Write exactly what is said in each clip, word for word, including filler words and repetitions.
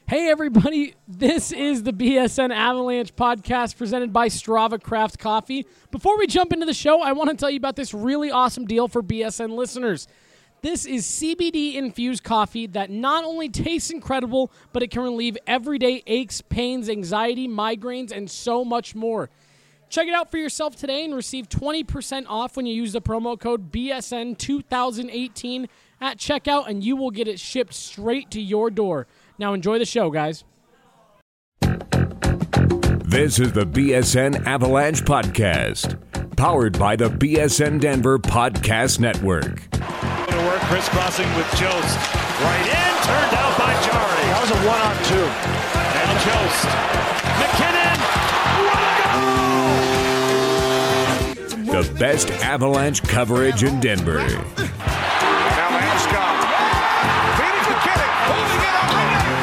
Hey, everybody. This is the B S N Avalanche podcast presented by Strava Craft Coffee. Before we jump into the show, I want to tell you about this really awesome deal for B S N listeners. This is C B D-infused coffee that not only tastes incredible, but it can relieve everyday aches, pains, anxiety, migraines, and so much more. Check it out for yourself today and receive twenty percent off when you use the promo code B S N twenty eighteen at checkout, and you will get it shipped straight to your door. Now enjoy the show, guys. This is the B S N Avalanche Podcast, powered by the B S N Denver Podcast Network. To work, crisscrossing with Jost. Right in, turned out by Jari. That was a one-on-two. And Jost. McKinnon. What a goal! The best Avalanche coverage in Denver. Now Landeskog. Feeding McKinnon. Holding it up.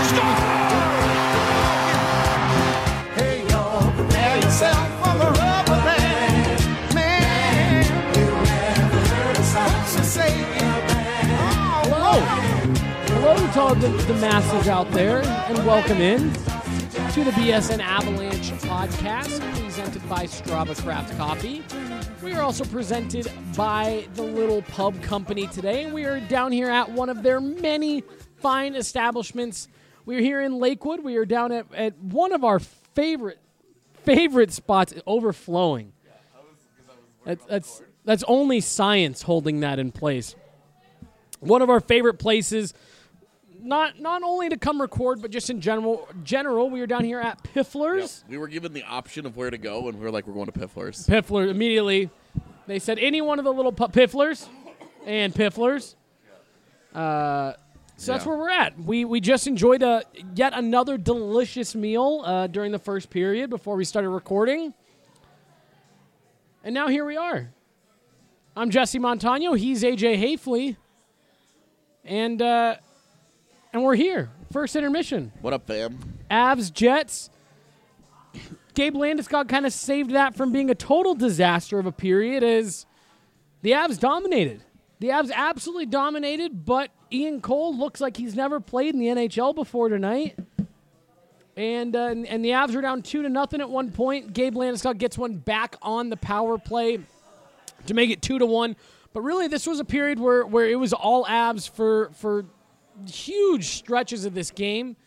Hey, y'all, prepare yourself for the rubber band. Man, you never heard a sound so say Hello. Hello to all the, the masses out there, and welcome in to the B S N Avalanche podcast presented by Strava Craft Coffee. We are also presented by the Little Pub Company today. We are down here at one of their many fine establishments. We're here in Lakewood. We are down at, at one of our favorite favorite spots, Overflowing. That's, that's, that's only science holding that in place. One of our favorite places, not not only to come record, but just in general. General, we are down here at Piffler's. Yep. We were given the option of where to go, and we were like, we're going to Piffler's. Piffler immediately. They said any one of the little pu- Pifflers and Pifflers. Uh, so that's Yeah. where we're at. We we just enjoyed a yet another delicious meal uh, during the first period before we started recording, and now here we are. I'm Jesse Montano. He's A J Hafley, and uh, and we're here. First intermission. What up, fam? Avs, Jets. Gabe Landeskog kind of saved that from being a total disaster of a period as the Avs dominated. The Avs absolutely dominated, but Ian Cole looks like he's never played in the N H L before tonight. And uh, and the Avs are down two to nothing at one point. Gabe Landeskog gets one back on the power play to make it two to one. But really, this was a period where, where it was all Avs for for huge stretches of this game.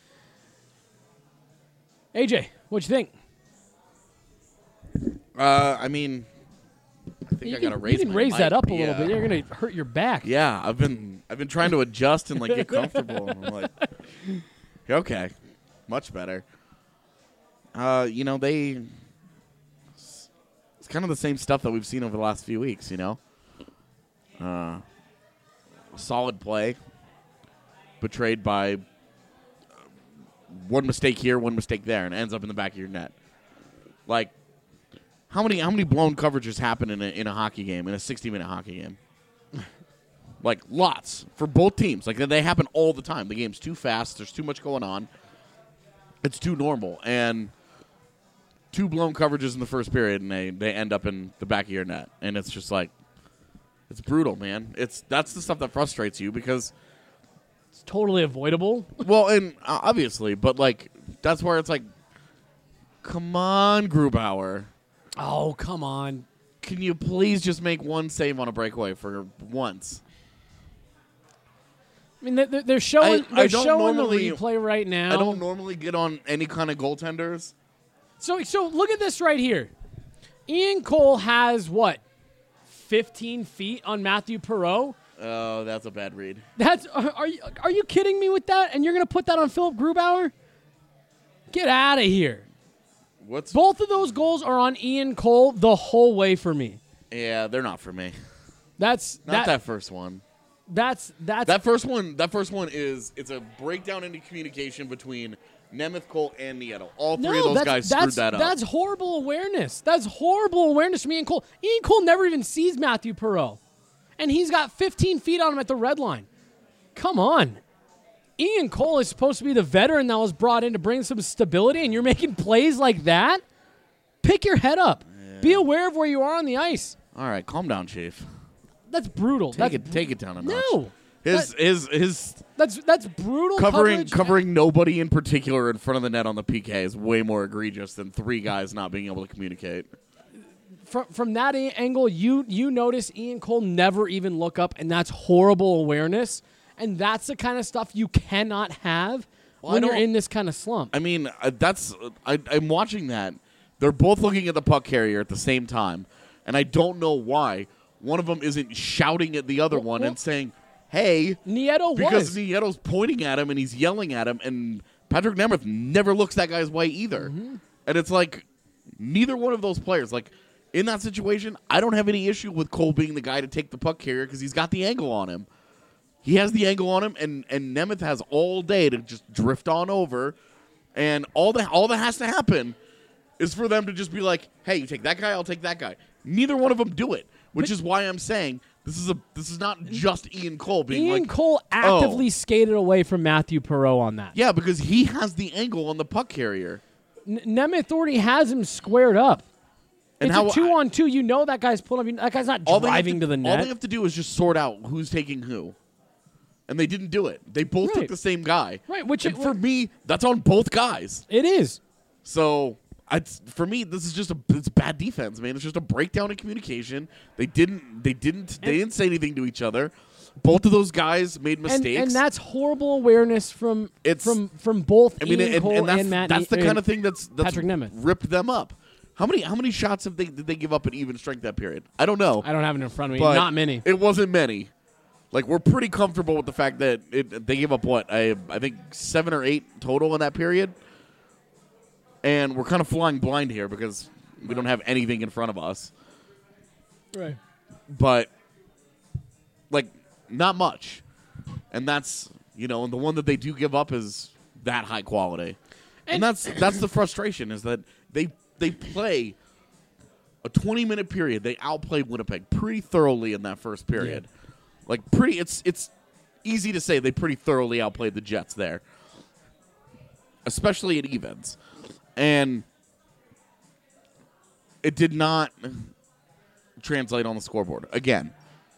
A J, what'd you think? Uh, I mean, I think You I gotta can, raise. you can my raise mic. that up a Yeah. little bit. You're gonna hurt your back. Yeah, I've been I've been trying to adjust and like get comfortable. And I'm like, okay, much better. Uh, you know they. It's kind of the same stuff that we've seen over the last few weeks. You know, uh, solid play, betrayed by one mistake here, one mistake there, and ends up in the back of your net. Like, how many how many blown coverages happen in a in a hockey game, in a sixty minute hockey game? Like, lots for both teams. Like, they happen all the time. The game's too fast. There's too much going on. It's too normal. And two blown coverages in the first period, and they, they end up in the back of your net. And it's just like, it's brutal, man. It's that's the stuff that frustrates you because, It's totally avoidable. well, and uh, obviously, but like that's where it's like, come on, Grubauer. Oh, come on. Can you please just make one save on a breakaway for once? I mean, they're, they're showing, I- I they're don't showing the normally- replay right now. I don't normally get on any kind of goaltenders. So, so look at this right here. Ian Cole has, what, fifteen feet on Matthew Perreault? Oh, that's a bad read. That's are, are you are you kidding me with that? And you're going to put that on Philip Grubauer? Get out of here. What's Both of those goals are on Ian Cole the whole way for me. Yeah, they're not for me. That's Not that, that, first one. that's that's That first one. That first one is it's a breakdown into communication between Nemeth, Cole, and Nieto. All three no, of those that's, guys that's, screwed that up. That's horrible awareness. That's horrible awareness from Ian Cole. Ian Cole never even sees Matthew Perreault. And he's got fifteen feet on him at the red line. Come on. Ian Cole is supposed to be the veteran that was brought in to bring some stability, and you're making plays like that? Pick your head up. Yeah. Be aware of where you are on the ice. All right, calm down, Chief. That's brutal. Take That's it, take it down a notch. No. His That- his his That's that's brutal covering coverage. covering nobody in particular in front of the net on the P K is way more egregious than three guys not being able to communicate. From from that a- angle, you you notice Ian Cole never even look up, and that's horrible awareness. And that's the kind of stuff you cannot have Well, when I you're don't- in this kind of slump. I mean, uh, that's uh, I, I'm watching that. They're both looking at the puck carrier at the same time, and I don't know why one of them isn't shouting at the other Well, one well- and saying, "Hey," Nieto because was. Nieto's pointing at him and he's yelling at him, and Patrick Nemeth never looks that guy's way either. Mm-hmm. And it's like neither one of those players, like in that situation, I don't have any issue with Cole being the guy to take the puck carrier because he's got the angle on him. He has the angle on him, and, and Nemeth has all day to just drift on over, and all that all that has to happen is for them to just be like, "Hey, you take that guy, I'll take that guy." Neither one of them do it, which is why I'm saying this is a this is not just Ian Cole being Ian like, Cole actively oh. skated away from Matthew Perreault on that. yeah, because he has the angle on the puck carrier. N- Nemeth already has him squared up. And it's how a two on two. You know that guy's pulling up. That guy's not all they have driving to, the All net. they have to do is just sort out who's taking who. And they didn't do it. They both Right. took the same guy. Right, which and it- for me, that's on both guys. It is. So I, for me, this is just a it's bad defense, man. It's just a breakdown in communication. They didn't they didn't they didn't say anything to each other. Both of those guys made And, mistakes. and that's horrible awareness from It's- from from both I mean, Ian and, Cole and that's, and Matt. that's the Ne- kind of thing that's, that's Patrick Nemeth. ripped them up. How many how many shots have they did they give up at even strength that period? I don't know. I don't have it in front of me. but Not many. It wasn't many. Like we're pretty comfortable with the fact that it, they gave up what I I think seven or eight total in that period, and we're kind of flying blind here because we don't have anything in front of us. Right. But like not much, and that's you know, and the one that they do give up is that high quality, and, And- that's that's the frustration is that they they play a twenty minute period. They outplayed Winnipeg pretty thoroughly in that first period. Like pretty, it's it's easy to say they pretty thoroughly outplayed the Jets there, especially at evens, and it did not translate on the scoreboard again.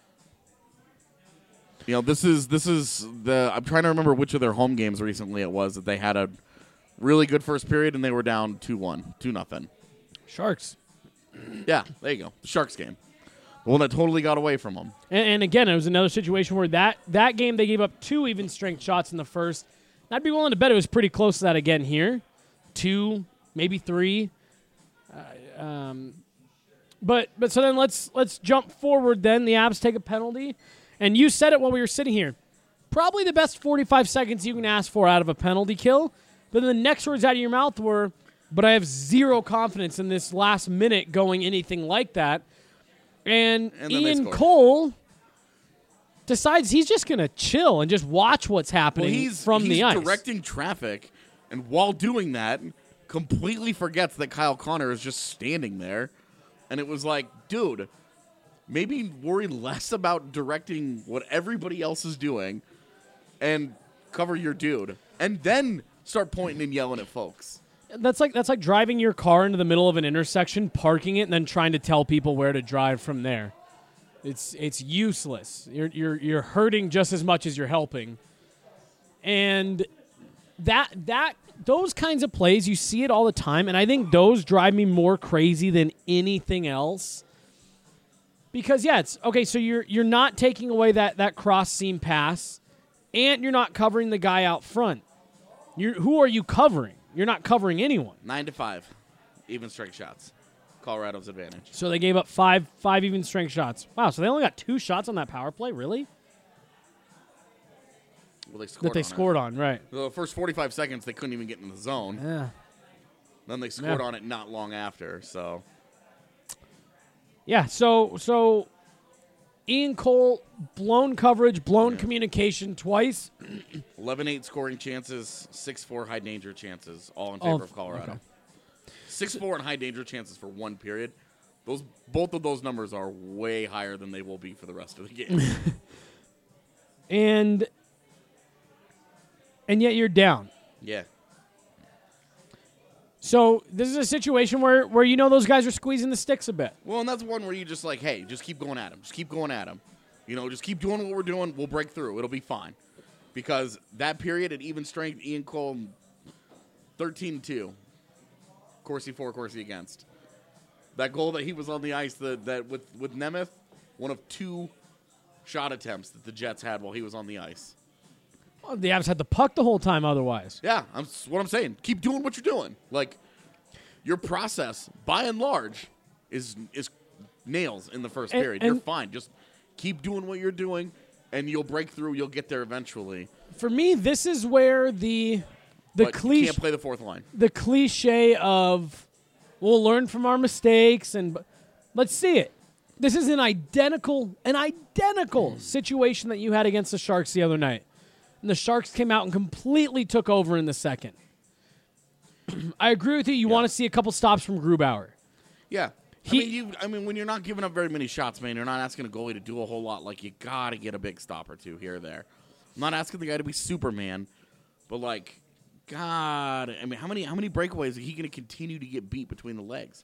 You know, this is this is the. I'm trying to remember which of their home games recently it was that they had a really good first period and they were down two one, two nothing. Sharks. Yeah, there you go. The Sharks game, the one that totally got away from them. And, and again, it was another situation where that, that game they gave up two even strength shots in the first. I'd be willing to bet it was pretty close to that again here. Two, maybe three. Uh, um, but but so then let's let's jump forward then. The Abs take a penalty. And you said it while we were sitting here. Probably the best forty-five seconds you can ask for out of a penalty kill. But then the next words out of your mouth were, but I have zero confidence in this last minute going anything like that. And, And then they Ian score. Cole decides he's just going to chill and just watch what's happening Well, he's from he's the ice. directing traffic, and while doing that, completely forgets that Kyle Connor is just standing there. And it was like, dude, maybe worry less about directing what everybody else is doing and cover your dude. And then start pointing and yelling at folks. That's like that's like driving your car into the middle of an intersection, parking it, and then trying to tell people where to drive from there. It's it's useless. You're you're you're hurting just as much as you're helping. And that that those kinds of plays, you see it all the time, and I think those drive me more crazy than anything else. Because yeah, it's okay, so you're you're not taking away that, that cross seam pass, and you're not covering the guy out front. You're who are you covering? You're not covering anyone. Nine to five, even strike shots. Colorado's advantage. So they gave up five five even strength shots. Wow, so they only got two shots on that power play? Really? Well, they scored That they on scored on, right. It. The first forty-five seconds, they couldn't even get in the zone. Yeah. Then they scored Yeah. on it not long after. So Yeah, so so Ian Cole, blown coverage, blown Yeah. communication twice. eleven eight scoring chances, six four high danger chances, all in All favor f- of Colorado. okay. six four and high danger chances for one period. Those both of those numbers are way higher than they will be for the rest of the game. And and yet you're down. Yeah. So this is a situation where, where you know those guys are squeezing the sticks a bit. Well, and that's one where you just like, hey, just keep going at him. Just keep going at him. You know, just keep doing what we're doing. We'll break through. It'll be fine. Because that period at even strength, Ian Cole, thirteen two. Corsi for, Corsi against. That goal that he was on the ice that, that with, with Nemeth, one of two shot attempts that the Jets had while he was on the ice. Well, the Avs had the puck the whole time otherwise. Yeah, that's what I'm saying. Keep doing what you're doing. Like, your process, by and large, is is nails in the first And- period. and- You're fine. Just keep doing what you're doing, and you'll break through. You'll get there eventually. For me, this is where the the But you cliche can't play the fourth line. the cliche of we'll learn from our mistakes and let's see it. This is an identical an identical situation that you had against the Sharks the other night. And the Sharks came out and completely took over in the second. I agree with you. You Yeah. want to see a couple stops from Grubauer. Yeah. He- I mean, you. I mean, when you're not giving up very many shots, man, you're not asking a goalie to do a whole lot. Like, you gotta get a big stop or two here or there. I'm not asking the guy to be Superman, but like, God, I mean, how many how many breakaways is he going to continue to get beat between the legs?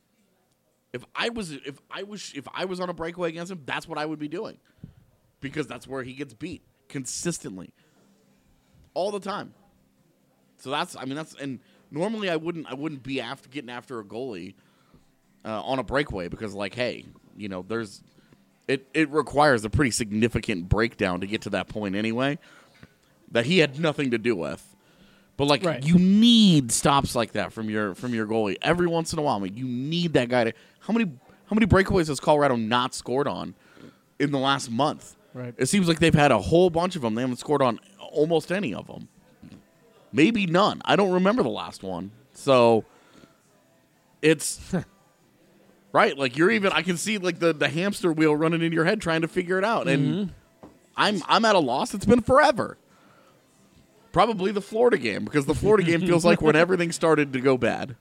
If I was if I was if I was on a breakaway against him, that's what I would be doing, because that's where he gets beat consistently, all the time. So that's I mean that's and normally I wouldn't I wouldn't be after getting after a goalie uh, on a breakaway because like hey you know there's it it requires a pretty significant breakdown to get to that point anyway that he had nothing to do with. But like Right. you need stops like that from your from your goalie every once in a while. I mean, you need that guy to how many how many breakaways has Colorado not scored on in the last month? Right. It seems like they've had a whole bunch of them. They haven't scored on almost any of them. Maybe none. I don't remember the last one. So it's right. Like you're even. I can see like the, the hamster wheel running in your head trying to figure it out. And Mm-hmm. I'm I'm at a loss. It's been forever. Probably the Florida game because the Florida game feels like when everything started to go bad.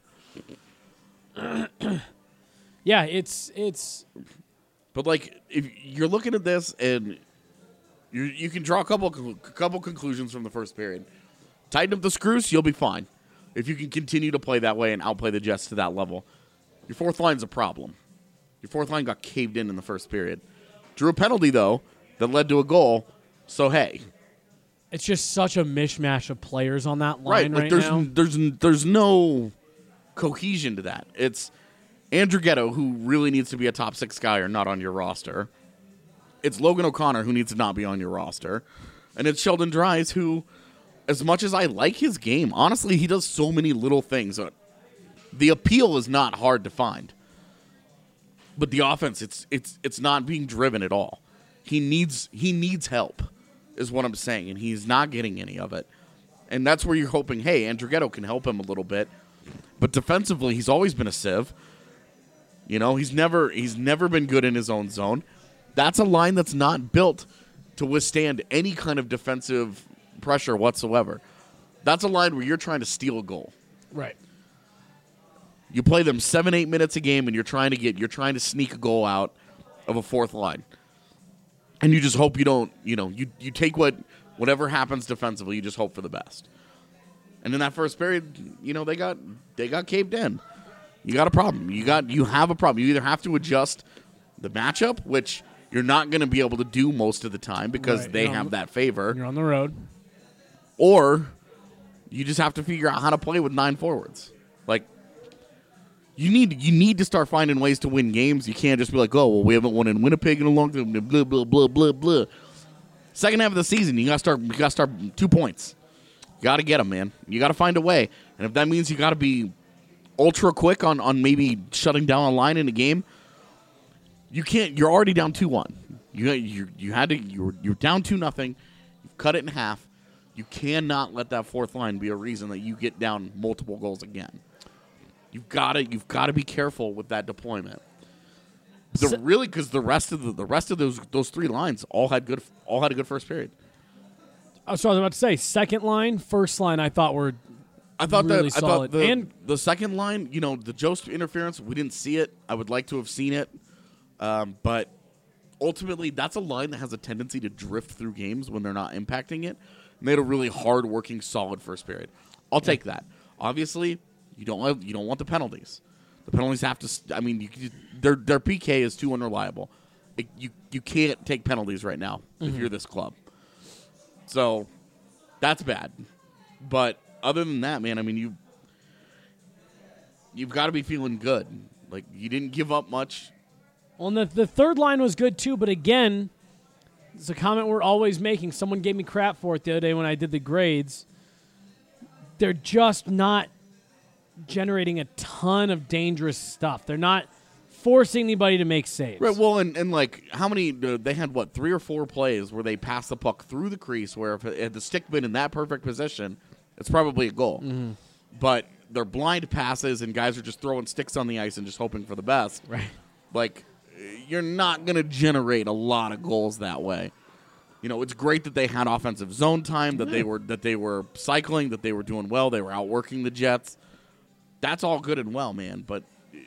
Yeah, it's it's But like, if you're looking at this and you you can draw a couple a couple conclusions from the first period. Tighten up the screws, you'll be fine. If you can continue to play that way and outplay the Jets to that level, your fourth line's a problem. Your fourth line got caved in in the first period. Drew a penalty though that led to a goal. So hey, it's just such a mishmash of players on that right? line Like right, there's now. there's there's no cohesion to that. It's Andrew Ghetto, who really needs to be a top six guy, or not on your roster. It's Logan O'Connor, who needs to not be on your roster, and it's Sheldon Dries, who, as much as I like his game, honestly, he does so many little things. The appeal is not hard to find, but the offense, it's it's it's not being driven at all. He needs he needs help, is what I'm saying, and he's not getting any of it. And that's where you're hoping, hey, Andrew Ghetto can help him a little bit. But defensively, he's always been a sieve. You know, he's never he's never been good in his own zone. That's a line that's not built to withstand any kind of defensive pressure whatsoever. That's a line where you're trying to steal a goal. Right. You play them seven, eight minutes a game, and you're trying to get you're trying to sneak a goal out of a fourth line. And you just hope you don't, you know, you, you take what whatever happens defensively, you just hope for the best. And in that first period, you know, they got they got caved in. You got a problem. You got you have a problem. You either have to adjust the matchup, which you're not going to be able to do most of the time because Right. they You're on have the- that favor, You're on the road. or you just have to figure out how to play with nine forwards. Like you need you need to start finding ways to win games. You can't just be like, oh, well, we haven't won in Winnipeg in a long time. Blah blah blah blah blah. Second half of the season, you got to start. You got to start two points. You got to get them, man. You got to find a way, and if that means you got to be ultra quick on, on maybe shutting down a line in a game, you can't. You're already down two one. You you you had to. You're you're down two nothing. You've cut it in half. You cannot let that fourth line be a reason that you get down multiple goals again. You've got to. You've got to be careful with that deployment. The So- really because the rest of the the rest of those those three lines all had good all had a good first period. I was about to say, second line, first line, I thought were I thought really that I solid. thought the, And- the second line, you know, the Jost interference, we didn't see it. I would like to have seen it, um, but ultimately, that's a line that has a tendency to drift through games when they're not impacting it. And they had a really hard-working, solid first period. I'll take that. Obviously, you don't want, you don't want the penalties. The penalties have to. st- I mean, you, their their P K is too unreliable. it, you you can't take penalties right now mm-hmm. if you're this club. So that's bad. But other than that, man, I mean, you you've got to be feeling good. Like, you didn't give up much. Well, and the, the third line was good, too. But, again, it's a comment we're always making. Someone gave me crap for it the other day when I did the grades. They're just not generating a ton of dangerous stuff. They're not forcing anybody to make saves. Right, well, and, and like, how many, uh, they had, what, three or four plays where they passed the puck through the crease where if it had the stick been in that perfect position, it's probably a goal. Mm-hmm. But they're blind passes, and guys are just throwing sticks on the ice and just hoping for the best. Right. Like, you're not going to generate a lot of goals that way. You know, it's great that they had offensive zone time, that they were that they were cycling, that they were doing well, they were outworking the Jets. That's all good and well, man. But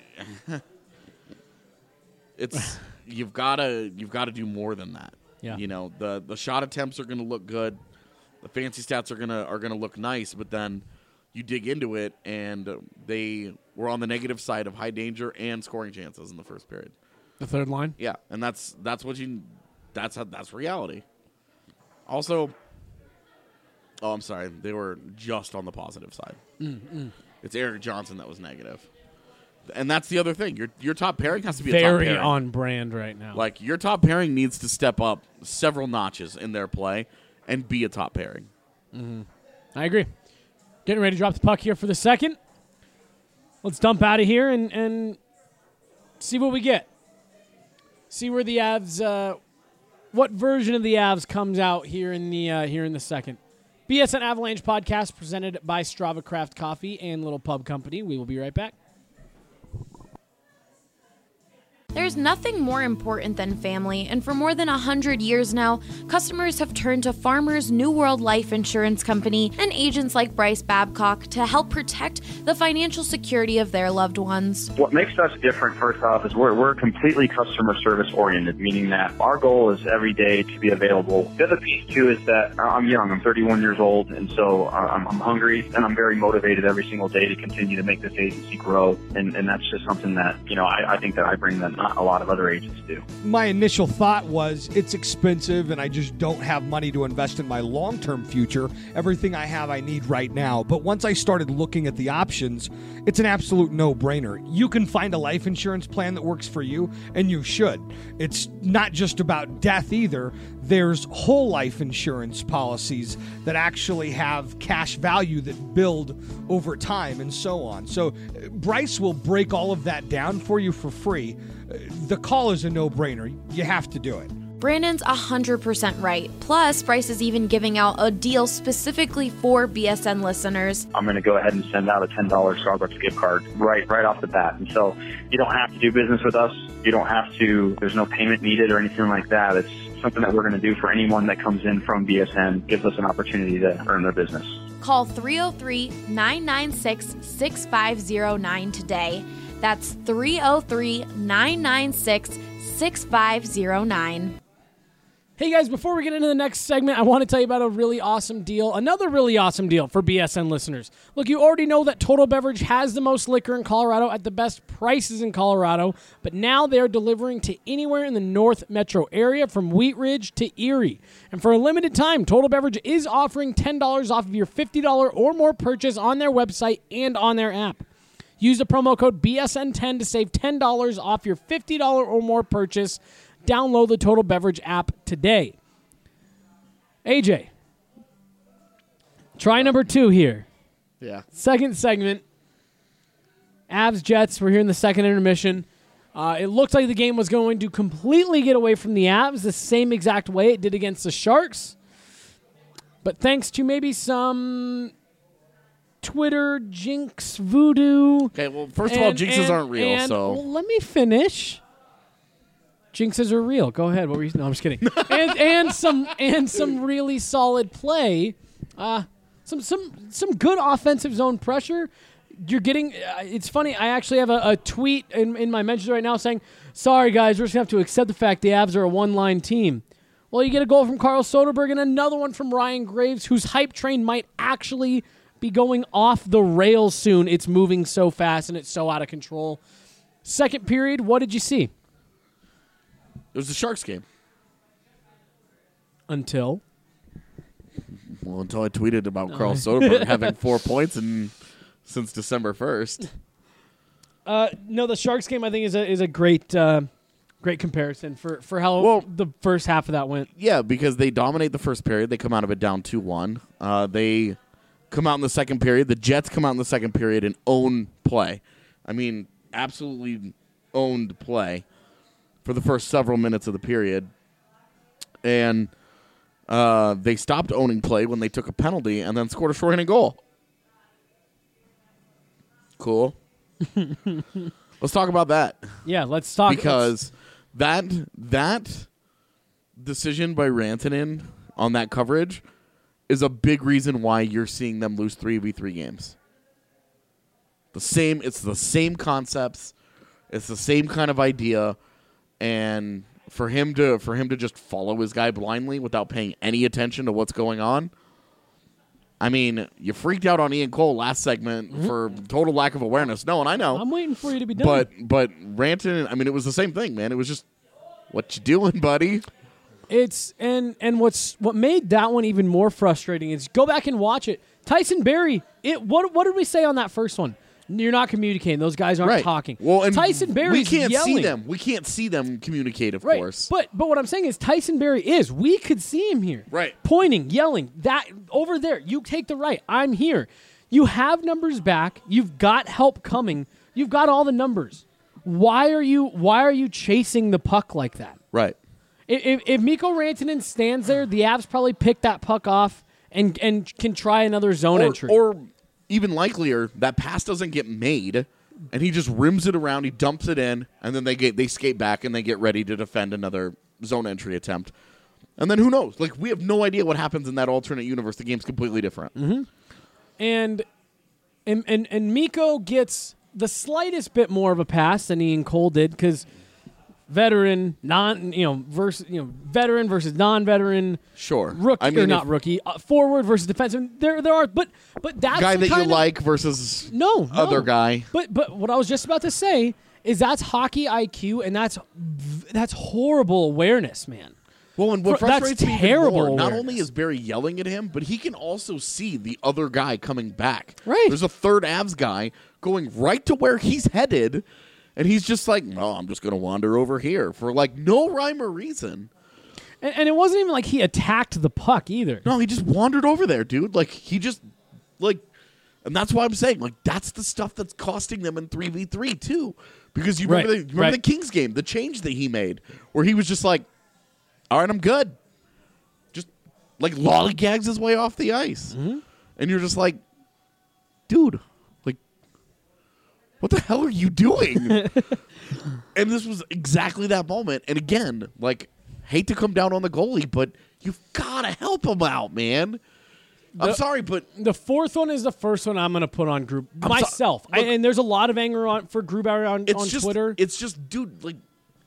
it's you've got to you've got to do more than that. Yeah. You know, the the shot attempts are going to look good, the fancy stats are gonna are gonna look nice, but then you dig into it, and they were on the negative side of high danger and scoring chances in the first period. The third line? Yeah, and that's that's what you that's how, that's reality. Also, oh, I'm sorry, they were just on the positive side. Mm-mm. It's Eric Johnson that was negative, and that's the other thing. Your your top pairing has to be very a top pairing. on brand right now. Like, your top pairing needs to step up several notches in their play and be a top pairing. Mm-hmm. I agree. Getting ready to drop the puck here for the second. Let's dump out of here and, and see what we get. See where the Avs, uh, what version of the Avs comes out here in the uh, here in the second. B S N Avalanche podcast presented by Strava Craft Coffee and Little Pub Company. We will be right back. There's nothing more important than family, and for more than one hundred years now, customers have turned to Farmers New World Life Insurance Company and agents like Bryce Babcock to help protect the financial security of their loved ones. What makes us different, first off, is we're, we're completely customer service oriented, meaning that our goal is every day to be available. The other piece, too, is that I'm young. I'm thirty-one years old, and so I'm, I'm hungry, and I'm very motivated every single day to continue to make this agency grow, and, and that's just something that, you know, I, I think that I bring that not a lot of other agents do. My initial thought was it's expensive and I just don't have money to invest in my long-term future. Everything I have I need right now. But once I started looking at the options, it's an absolute no-brainer. You can find a life insurance plan that works for you, and you should. It's not just about death either. There's whole life insurance policies that actually have cash value that build over time and so on. So Bryce will break all of that down for you for free. The call is a no-brainer. You have to do it. Brandon's one hundred percent right. Plus, Bryce is even giving out a deal specifically for B S N listeners. I'm going to go ahead and send out a ten dollars Starbucks gift card right right off the bat. And so you don't have to do business with us. You don't have to, there's no payment needed or anything like that. It's something that we're going to do for anyone that comes in from B S N, gives us an opportunity to earn their business. Call three oh three, nine nine six, six five oh nine today. That's three oh three, nine nine six, six five oh nine. Hey guys, before we get into the next segment, I want to tell you about a really awesome deal, another really awesome deal for B S N listeners. Look, you already know that Total Beverage has the most liquor in Colorado at the best prices in Colorado, but now they're delivering to anywhere in the North Metro area from Wheat Ridge to Erie. And for a limited time, Total Beverage is offering ten dollars off of your fifty dollars or more purchase on their website and on their app. Use the promo code B S N ten to save ten dollars off your fifty dollars or more purchase. Download the Total Beverage app today. A J, try number two here. Yeah. Second segment. Avs Jets. We're here in the second intermission. Uh, it looked like the game was going to completely get away from the Avs the same exact way it did against the Sharks. But thanks to maybe some Twitter jinx voodoo. Okay, well, first of all, jinxes and, aren't real, and, so. Well, let me finish. Jinxes are real. Go ahead. What were you? No, I'm just kidding. and and some and some really solid play. Uh, some some some good offensive zone pressure. You're getting. Uh, it's funny. I actually have a, a tweet in, in my mentions right now saying, "Sorry guys, we're just gonna have to accept the fact the Avs are a one-line team." Well, you get a goal from Carl Soderberg and another one from Ryan Graves, whose hype train might actually be going off the rails soon. It's moving so fast and it's so out of control. Second period. What did you see? It was the Sharks game. Until? Well, until I tweeted about Carl Soderberg having four points in, since December first. Uh, no, the Sharks game I think is a is a great uh, great comparison for, for how Well, the first half of that went. Yeah, because they dominate the first period. They come out of it down two one. Uh, they come out in the second period. The Jets come out in the second period and own play. I mean, absolutely owned play for the first several minutes of the period. And uh, they stopped owning play when they took a penalty and then scored a shorthanded goal. Cool. Let's talk about that. Yeah, let's talk. Because that that decision by Rantanen on that coverage is a big reason why you're seeing them lose three v three games. The same, it's the same concepts, it's the same kind of idea, and for him to for him to just follow his guy blindly without paying any attention to what's going on. I mean, you freaked out on Ian Cole last segment mm-hmm. for total lack of awareness. No, and I know. I'm waiting for you to be done. But but Rantanen, I mean, it was the same thing, man. It was just, what you doing, buddy? It's and and what's what made that one even more frustrating is go back and watch it. Tyson Barrie, it what what did we say on that first one? You're not communicating. Those guys aren't right. talking. Well, and Tyson Barrie, we can't yelling. see them. We can't see them communicate, of right. course. But but what I'm saying is Tyson Barrie is. We could see him here, right? Pointing, yelling. That over there. You take the right. I'm here. You have numbers back. You've got help coming. You've got all the numbers. Why are you Why are you chasing the puck like that? Right. If if Mikko Rantanen stands there, the Avs probably pick that puck off and and can try another zone or, entry. Or even likelier, that pass doesn't get made, and he just rims it around, he dumps it in, and then they get they skate back and they get ready to defend another zone entry attempt. And then who knows? Like, we have no idea what happens in that alternate universe. The game's completely different. Mm-hmm. And, and and and Mikko gets the slightest bit more of a pass than Ian Cole did because veteran, non, you know, versus you know, veteran versus non-veteran. Sure, rookie I mean, or not rookie, uh, forward versus defensive. There, there are, but but that's guy the that you kind of, like versus no, no other guy. But but what I was just about to say is that's hockey I Q and that's that's horrible awareness, man. Well, and what For, frustrates that's me terrible even more, not awareness. only is Barrie yelling at him, but he can also see the other guy coming back. Right. There's a third Avs guy going right to where he's headed, and he's just like, no, I'm just going to wander over here for, like, no rhyme or reason. And, and it wasn't even like he attacked the puck either. No, he just wandered over there, dude. Like, he just, like, and that's why I'm saying, like, that's the stuff that's costing them in three v three, too. Because you remember, Right, the, remember right. the Kings game, the change that he made, where he was just like, all right, I'm good. Just, like, lollygags his way off the ice. Mm-hmm. And you're just like, dude, like, what the hell are you doing? And this was exactly that moment. And again, like, hate to come down on the goalie, but you've got to help him out, man. I'm The- sorry, but The fourth one is the first one I'm going to put on group I'm so- myself. I, look- and there's a lot of anger on for Grubauer on, it's on just, Twitter. it's just, dude, like,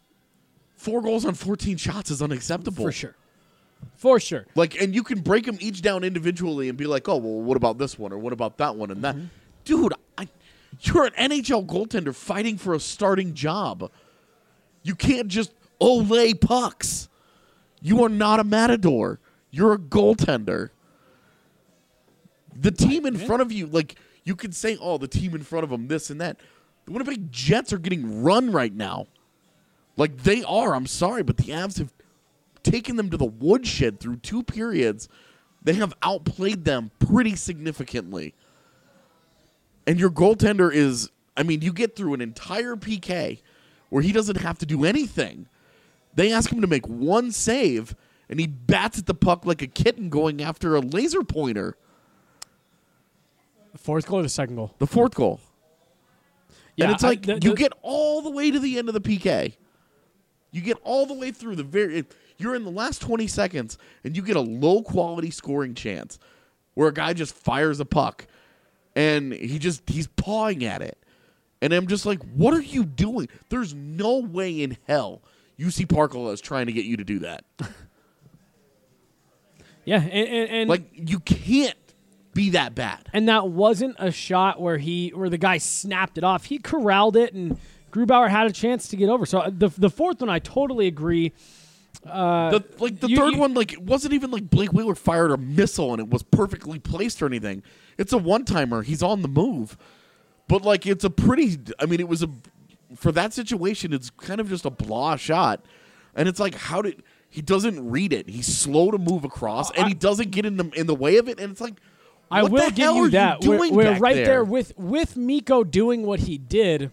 four goals on fourteen shots is unacceptable. For sure. For sure. Like, and you can break them each down individually and be like, oh, well, what about this one or what about that one and that. Mm-hmm. Dude, I, you're an N H L goaltender fighting for a starting job. You can't just ole pucks. You are not a matador. You're a goaltender. The team in front of you, like, you could say, oh, the team in front of them, this and that. The Winnipeg Jets are getting run right now. Like, they are. I'm sorry, but the Avs have taken them to the woodshed through two periods. They have outplayed them pretty significantly. And your goaltender is, I mean, you get through an entire P K where he doesn't have to do anything. They ask him to make one save, and he bats at the puck like a kitten going after a laser pointer. The fourth goal or the second goal? The fourth goal. Yeah, and it's I- like, the- you the- get all the way to the end of the P K. You get all the way through the very... You're in the last twenty seconds, and you get a low-quality scoring chance where a guy just fires a puck, and he just he's pawing at it. And I'm just like, what are you doing? There's no way in hell U C Parkola is trying to get you to do that. Yeah, and, and, and Like, you can't be that bad. and that wasn't a shot where he where the guy snapped it off. He corralled it and Grubauer had a chance to get over. So the the fourth one, I totally agree. Uh, the, like the you- third you- one, like it wasn't even like Blake Wheeler fired a missile and it was perfectly placed or anything. It's a one timer. He's on the move, but like it's a pretty. I mean, it was a for that situation. It's kind of just a blah shot, and it's like how did he doesn't read it? He's slow to move across, and he doesn't get in the in the way of it. And it's like I what will the give hell you are that. You we're doing we're back right there? there with with Mikko doing what he did.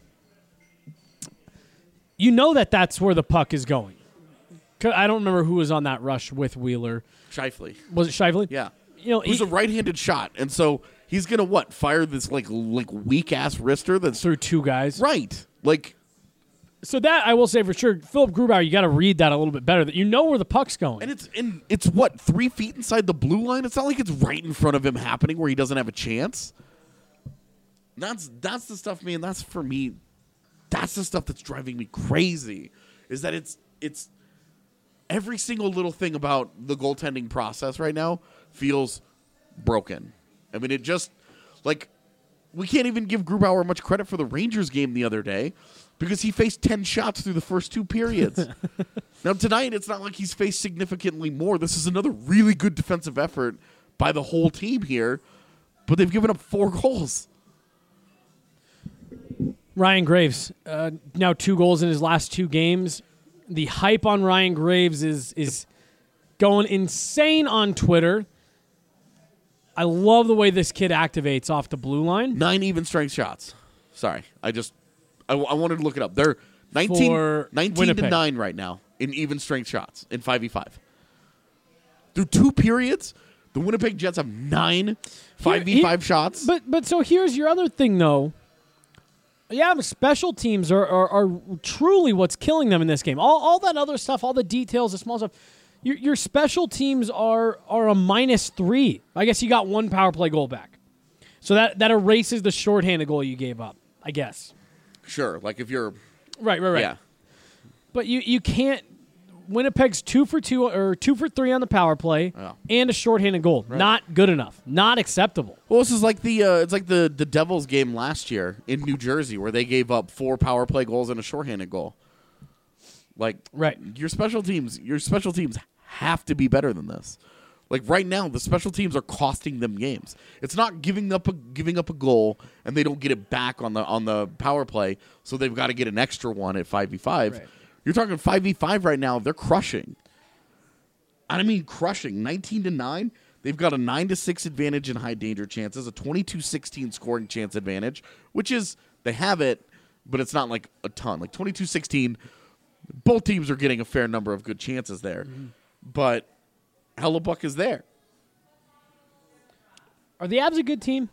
You know that that's where the puck is going. 'Cause I don't remember who was on that rush with Wheeler. Shifley. Was it Shively? Yeah. You know, It was he- a right-handed shot, and so he's gonna what fire this like like weak ass wrister that's through two guys. right. Like So that I will say for sure, Philip Grubauer, you got to read that a little bit better. That you know where the puck's going. and it's in it's what three feet inside the blue line. It's not like it's right in front of him happening where he doesn't have a chance. That's that's the stuff, man. That's for me. That's the stuff that's driving me crazy. Is that it's it's every single little thing about the goaltending process right now feels broken. I mean, it just like we can't even give Grubauer much credit for the Rangers game the other day because he faced ten shots through the first two periods. Now tonight, it's not like he's faced significantly more. This is another really good defensive effort by the whole team here, but they've given up four goals. Ryan Graves, uh, now two goals in his last two games. The hype on Ryan Graves is is going insane on Twitter. I love the way this kid activates off the blue line. Nine even strength shots. Sorry, I just I, I wanted to look it up. They're nineteen, For nineteen to Winnipeg. nine right now in even strength shots in five v five. Through two periods, the Winnipeg Jets have nine five v five Here- shots. But but so here's your other thing though. Yeah, but special teams are, are, are truly what's killing them in this game. All all that other stuff, all the details, the small stuff. Your, your special teams are are a minus three. I guess you got one power play goal back, so that that erases the shorthanded goal you gave up. I guess. Sure, like if you're Right, right, right. yeah. But you you can't. Winnipeg's two for two or two for three on the power play Yeah. and a shorthanded goal. Not good enough. Not acceptable. Well, this is like the uh, it's like the the Devils game last year in New Jersey where they gave up four power play goals and a shorthanded goal. Like Right. your special teams, your special teams have to be better than this. Like right now, the special teams are costing them games. It's not giving up a giving up a goal and they don't get it back on the on the power play, so they've got to get an extra one at five v five. Right. You're talking five v five right now. They're crushing. I mean, crushing. nineteen to nine. They've got a nine to six advantage in high danger chances, a twenty-two sixteen scoring chance advantage, which is they have it, but it's not like a ton. Like twenty-two sixteen, both teams are getting a fair number of good chances there, Mm-hmm. but Hellebuck is there. Are the Avs a good team?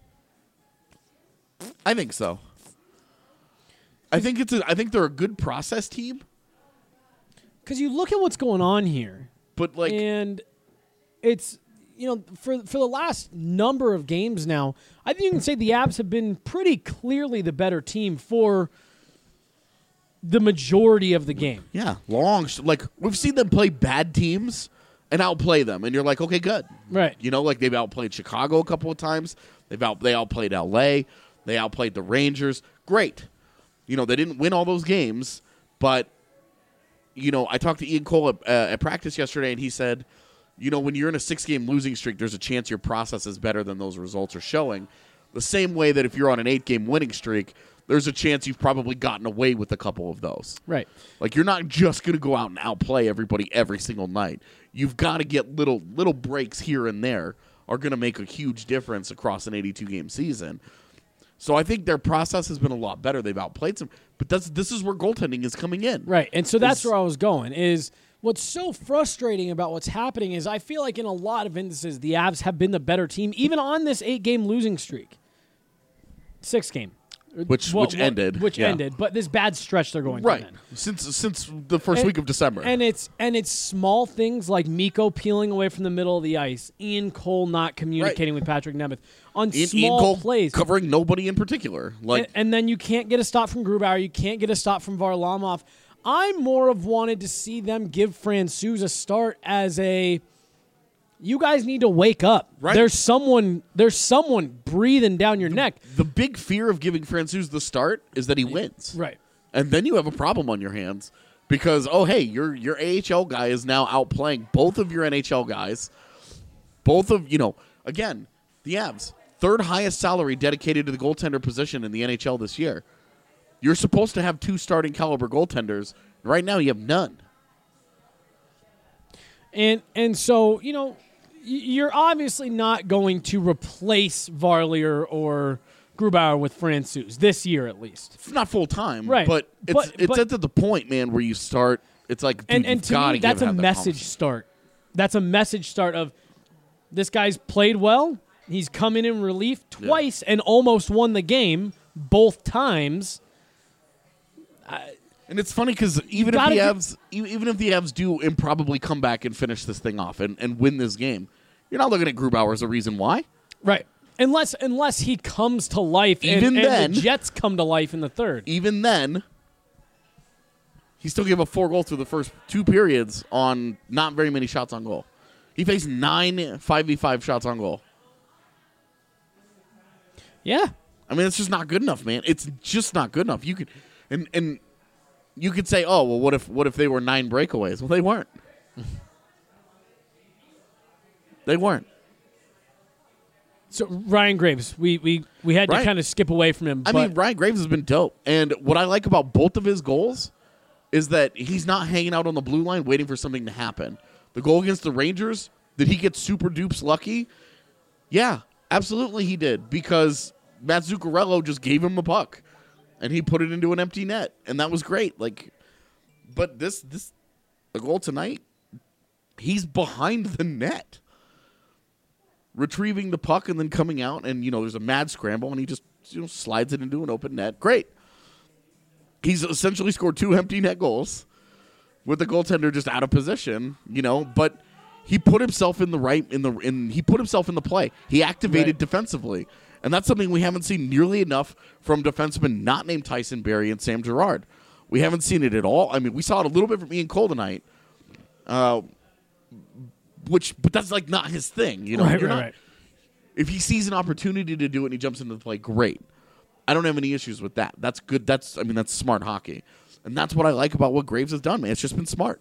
I think so. I think it's a, I think they're a good process team, Because you look at what's going on here, but like and it's you know for for the last number of games now, I think you can say the Avs have been pretty clearly the better team for the majority of the game. yeah, long sh- like we've seen them play bad teams and outplay them, and you're like, okay, good. Right. You know, like they've outplayed Chicago a couple of times. They've out they outplayed L A. They outplayed the Rangers. Great. You know, they didn't win all those games, but you know, I talked to Ian Cole at, uh, at practice yesterday, and he said, you know, when you're in a six-game losing streak, there's a chance your process is better than those results are showing. The same way that if you're on an eight-game winning streak, there's a chance you've probably gotten away with a couple of those. Right. Like, you're not just going to go out and outplay everybody every single night. You've got to get little little breaks here and there are going to make a huge difference across an eighty-two game season. So I think their process has been a lot better. They've outplayed some, but that's this is where goaltending is coming in. Right. And so that's Is- where I was going is what's so frustrating about what's happening is I feel like in a lot of instances the Avs have been the better team, even on this eight-game losing streak. Six game. Which- Well, which well, ended, Which yeah. ended. But this bad stretch they're going Right. through then. Since since the first And- week of December. And it's and it's small things like Mikko peeling away from the middle of the ice, Ian Cole not communicating with Patrick Nemeth on Ian, small Ian Cole plays. covering nobody in particular. Like and, and then you can't get a stop from Grubauer. You can't get a stop from Varlamov. I more of wanted to see them give Francouz a start as a. You guys need to wake up. Right. There's someone. There's someone breathing down your neck. the big fear of giving Francouz the start is that he wins. Right. And then you have a problem on your hands because, oh, hey, your your A H L guy is now outplaying both of your N H L guys. Both of, you know, again, the Avs, third highest salary dedicated to the goaltender position in the N H L this year. You're supposed to have two starting caliber goaltenders. Right now you have none. And and so, you know, you're obviously not going to replace Varley or, or Grubauer with Francouz this year, at least. It's not full time, right? But it's but, it's but, at the point, man, where you start. It's like, dude, and, and you've to got me, to that's a have that message start. That's a message start of this guy's played well. He's come in in relief twice yeah. and almost won the game both times. I, And it's funny because even if the Avs, even if the Avs do improbably come back and finish this thing off and, and win this game, you're not looking at Grubauer as a reason why, right? Unless unless he comes to life, even and, then, and the Jets come to life in the third. Even then, he still gave up four goals through the first two periods on not very many shots on goal. He faced nine five v five shots on goal. Yeah, I mean it's just not good enough, man. It's just not good enough. You could and and. You could say, "Oh, well, what if what if they were nine breakaways?" Well, they weren't. They weren't. So Ryan Graves, we we, we had Ryan, to kind of skip away from him. I but mean, Ryan Graves has been dope, and what I like about both of his goals is that he's not hanging out on the blue line waiting for something to happen. The goal against the Rangers, did he get super dupes lucky? Yeah, absolutely he did, because Matt Zuccarello just gave him the puck. And he put it into an empty net, and that was great. Like, but this this the goal tonight, he's behind the net, retrieving the puck and then coming out, and you know there's a mad scramble, and he just you know slides it into an open net. Great. He's essentially scored two empty net goals with the goaltender just out of position, you know. But he put himself in the right in the in he put himself in the play. He activated right. defensively. And that's something we haven't seen nearly enough from defensemen not named Tyson Barrie and Sam Girard. We haven't seen it at all. I mean, we saw it a little bit from Ian Cole tonight, uh, which, but that's like not his thing. You know, right, You're right, not, right. If he sees an opportunity to do it and he jumps into the play, great. I don't have any issues with that. That's good. That's I mean, that's smart hockey, and that's what I like about what Graves has done. Man, it's just been smart.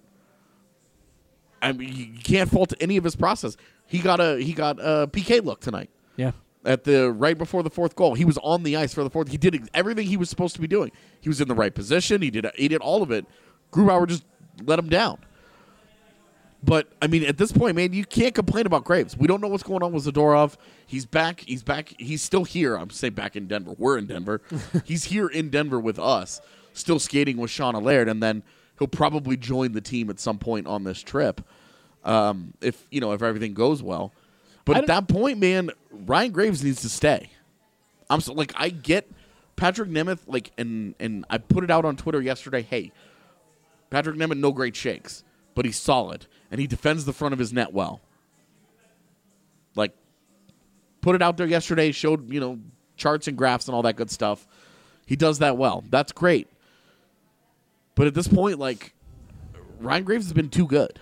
I mean, you can't fault any of his process. He got a he got a P K look tonight. Yeah. At the right before the fourth goal, he was on the ice for the fourth. He did everything he was supposed to be doing. He was in the right position. He did he did all of it. Grubauer just let him down. But I mean, at this point, man, you can't complain about Graves. We don't know what's going on with Zadorov. He's back. He's back. He's still here. I'm saying back in Denver. We're in Denver. He's here in Denver with us, still skating with Sean Allaire, and then he'll probably join the team at some point on this trip, um, if you know if everything goes well. But at that point, man, Ryan Graves needs to stay. I'm so, like, I get Patrick Nemeth, like, and and I put it out on Twitter yesterday. Hey, Patrick Nemeth, no great shakes, but he's solid and he defends the front of his net well. Like, put it out there yesterday, showed you know charts and graphs and all that good stuff. He does that well. That's great. But at this point, like, Ryan Graves has been too good.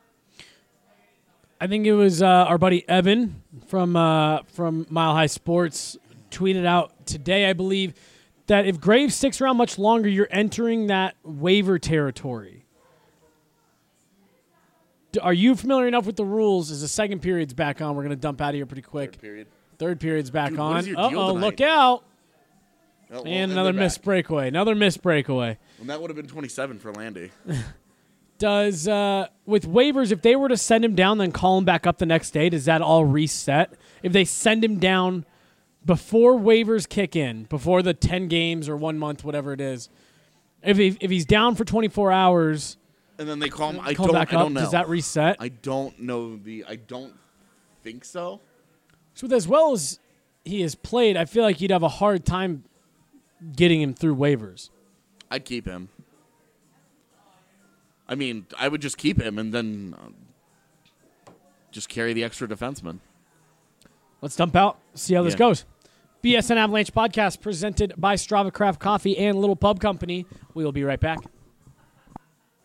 I think it was uh, our buddy Evan from uh, from Mile High Sports tweeted out today, I believe, that if Graves sticks around much longer, you're entering that waiver territory. D- are you familiar enough with the rules? As the second period's back on, we're going to dump out of here pretty quick. Third period. Third period's back Dude, on. Uh oh, look out. Oh, well, and another missed breakaway. Another missed breakaway. And that would have been twenty-seven for Landy. Does, uh, with waivers, if they were to send him down, then call him back up the next day, does that all reset? If they send him down before waivers kick in, before the ten games or one month, whatever it is, if he, if he's down for twenty-four hours, and then they call him, I call don't, back I up, don't know. Does that reset? I don't know the. I don't think so. So, with as well as he has played, I feel like you'd have a hard time getting him through waivers. I'd keep him. I mean, I would just keep him and then uh, just carry the extra defenseman. Let's dump out, see how this Yeah. goes. B S N Avalanche podcast presented by Strava Craft Coffee and Little Pub Company. We will be right back.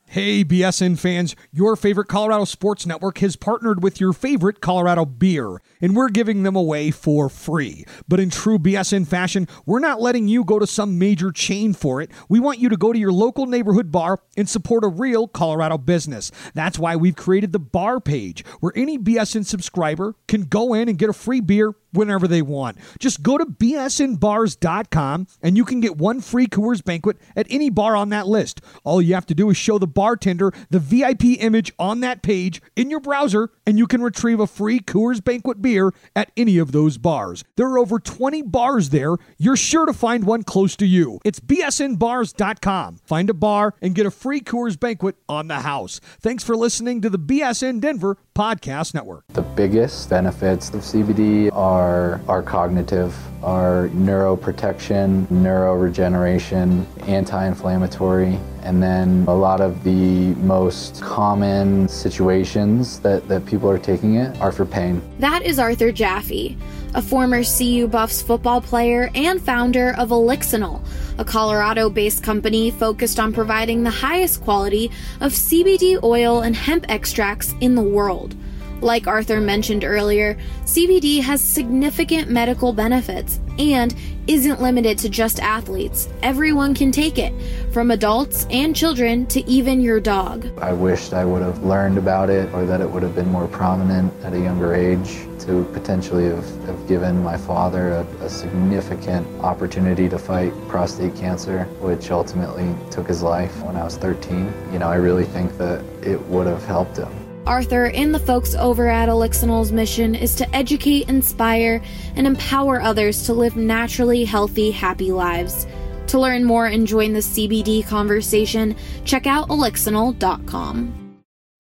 Hey, B S N fans, your favorite Colorado Sports Network has partnered with your favorite Colorado beer, and we're giving them away for free. But in true B S N fashion, we're not letting you go to some major chain for it. We want you to go to your local neighborhood bar and support a real Colorado business. That's why we've created the bar page, where any B S N subscriber can go in and get a free beer whenever they want. Just go to B S N bars dot com and you can get one free Coors Banquet at any bar on that list. All you have to do is show the bartender the V I P image on that page in your browser, and you can retrieve a free Coors Banquet beer at any of those bars. There are over twenty bars there. You're sure to find one close to you. It's B S N bars dot com. Find a bar and get a free Coors Banquet on the house. Thanks for listening to the B S N Denver Podcast Network. The biggest benefits of C B D are our cognitive, our neuroprotection, neuroregeneration, anti-inflammatory, and then a lot of the most common situations that, that people are taking it are for pain. That is Arthur Jaffe, a former C U Buffs football player and founder of Elixinol, a Colorado-based company focused on providing the highest quality of C B D oil and hemp extracts in the world. Like Arthur mentioned earlier, C B D has significant medical benefits and isn't limited to just athletes. Everyone can take it, from adults and children to even your dog. I wished I would have learned about it, or that it would have been more prominent at a younger age, to potentially have, have given my father a, a significant opportunity to fight prostate cancer, which ultimately took his life when I was thirteen. You know, I really think that it would have helped him. Arthur and the folks over at Elixinol's mission is to educate, inspire, and empower others to live naturally healthy, happy lives. To learn more and join the C B D conversation, check out elixinol dot com.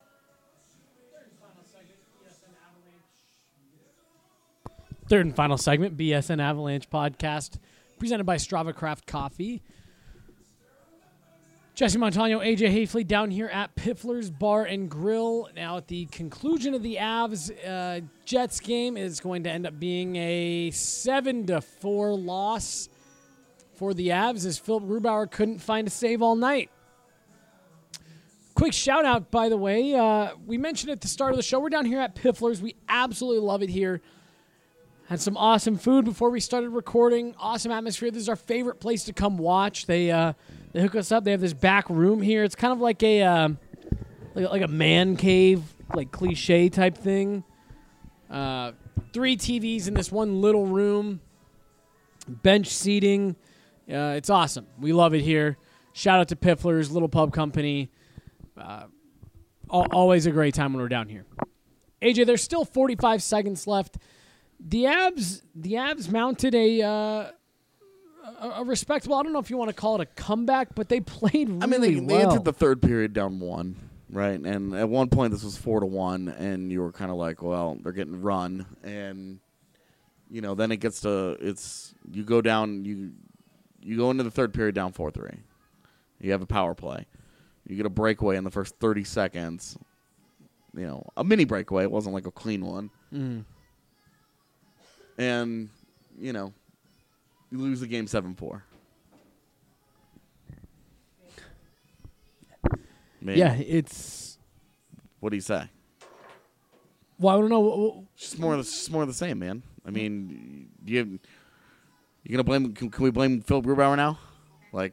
Third and final segment, B S N Avalanche podcast, presented by Strava Craft Coffee. Jesse Montano, A J Hafley down here at Piffler's Bar and Grill. Now, at the conclusion of the Avs uh, Jets game, is going to end up being a seven to four loss for the Avs, as Philip Grubauer couldn't find a save all night. Quick shout out, by the way. Uh, we mentioned at the start of the show, we're down here at Piffler's. We absolutely love it here. Had some awesome food before we started recording. Awesome atmosphere. This is our favorite place to come watch. They uh, they hook us up. They have this back room here. It's kind of like a uh, like, like a man cave, like cliche type thing. Uh, three T Vs in this one little room. Bench seating. Uh, it's awesome. We love it here. Shout out to Piffler's, little pub company. Uh, al- always a great time when we're down here. A J, there's still forty-five seconds left. The Avs, the Avs mounted a, uh, a a respectable. I don't know if you want to call it a comeback, but they played really I mean, they, they well. entered the third period down one, right? And at one point, this was four to one, and you were kind of like, "Well, they're getting run," and you know, then it gets to it's you go down, you you go into the third period down four three. You have a power play. You get a breakaway in the first thirty seconds. You know, a mini breakaway. It wasn't like a clean one. Mm. And, you know, you lose the game seven four. Yeah, it's... What do you say? Well, I don't know. It's just more, it's just more of the same, man. I mean, do you have, you gonna blame? Can, can we blame Phil Grubauer now? Like,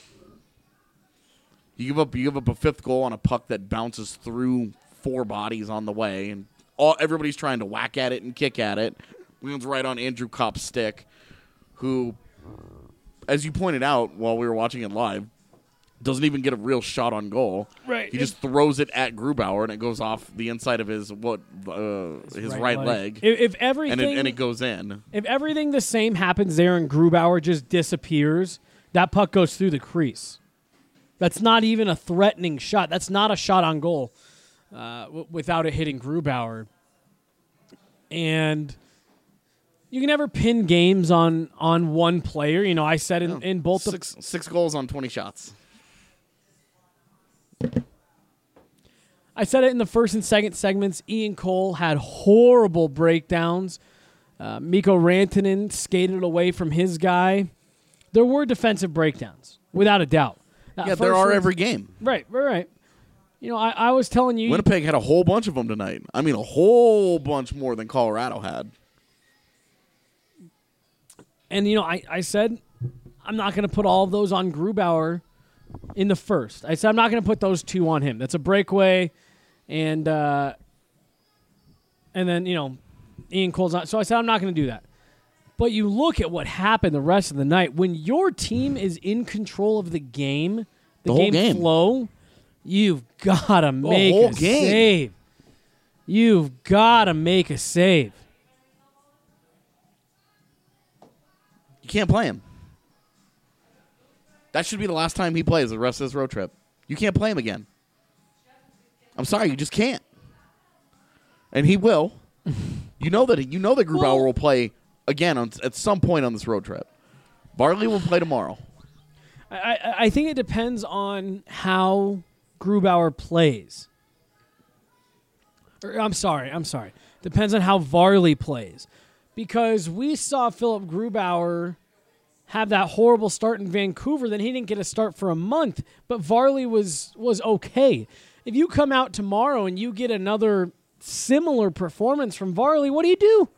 you give up, you give up a fifth goal on a puck that bounces through four bodies on the way, and all everybody's trying to whack at it and kick at it. Lands right on Andrew Kopp's stick, who, as you pointed out while we were watching it live, doesn't even get a real shot on goal. Right. He just throws it at Grubauer, and it goes off the inside of his what uh, his, his right, right leg. leg. If, if everything and it, and it goes in. If everything the same happens there and Grubauer just disappears, that puck goes through the crease. That's not even a threatening shot. That's not a shot on goal uh, w- without it hitting Grubauer. And you can never pin games on, on one player. You know, I said in, no. in both six, the six goals on twenty shots. I said it in the first and second segments. Ian Cole had horrible breakdowns. Uh, Mikko Rantanen skated away from his guy. There were defensive breakdowns, without a doubt. Yeah, there are every game. Right, right, right. You know, I, I was telling you. Winnipeg had a whole bunch of them tonight. I mean, a whole bunch more than Colorado had. And, you know, I, I said I'm not going to put all of those on Grubauer in the first. I said I'm not going to put those two on him. That's a breakaway. And, uh, and then, you know, Ian Cole's not. So I said I'm not going to do that. But you look at what happened the rest of the night. When your team is in control of the game, the, the whole game, game flow, you've got to make whole a game. save. You've got to make a save. You can't play him. That should be the last time he plays the rest of this road trip. You can't play him again. I'm sorry, you just can't. And he will. You know that you know that Grubauer Well- will play again on, at some point on this road trip. Varley will play tomorrow. I, I, I think it depends on how Grubauer plays. Or, I'm sorry, I'm sorry. Depends on how Varley plays. Because we saw Philip Grubauer have that horrible start in Vancouver, then he didn't get a start for a month, but Varley was was okay. If you come out tomorrow and you get another similar performance from Varley, what do you do?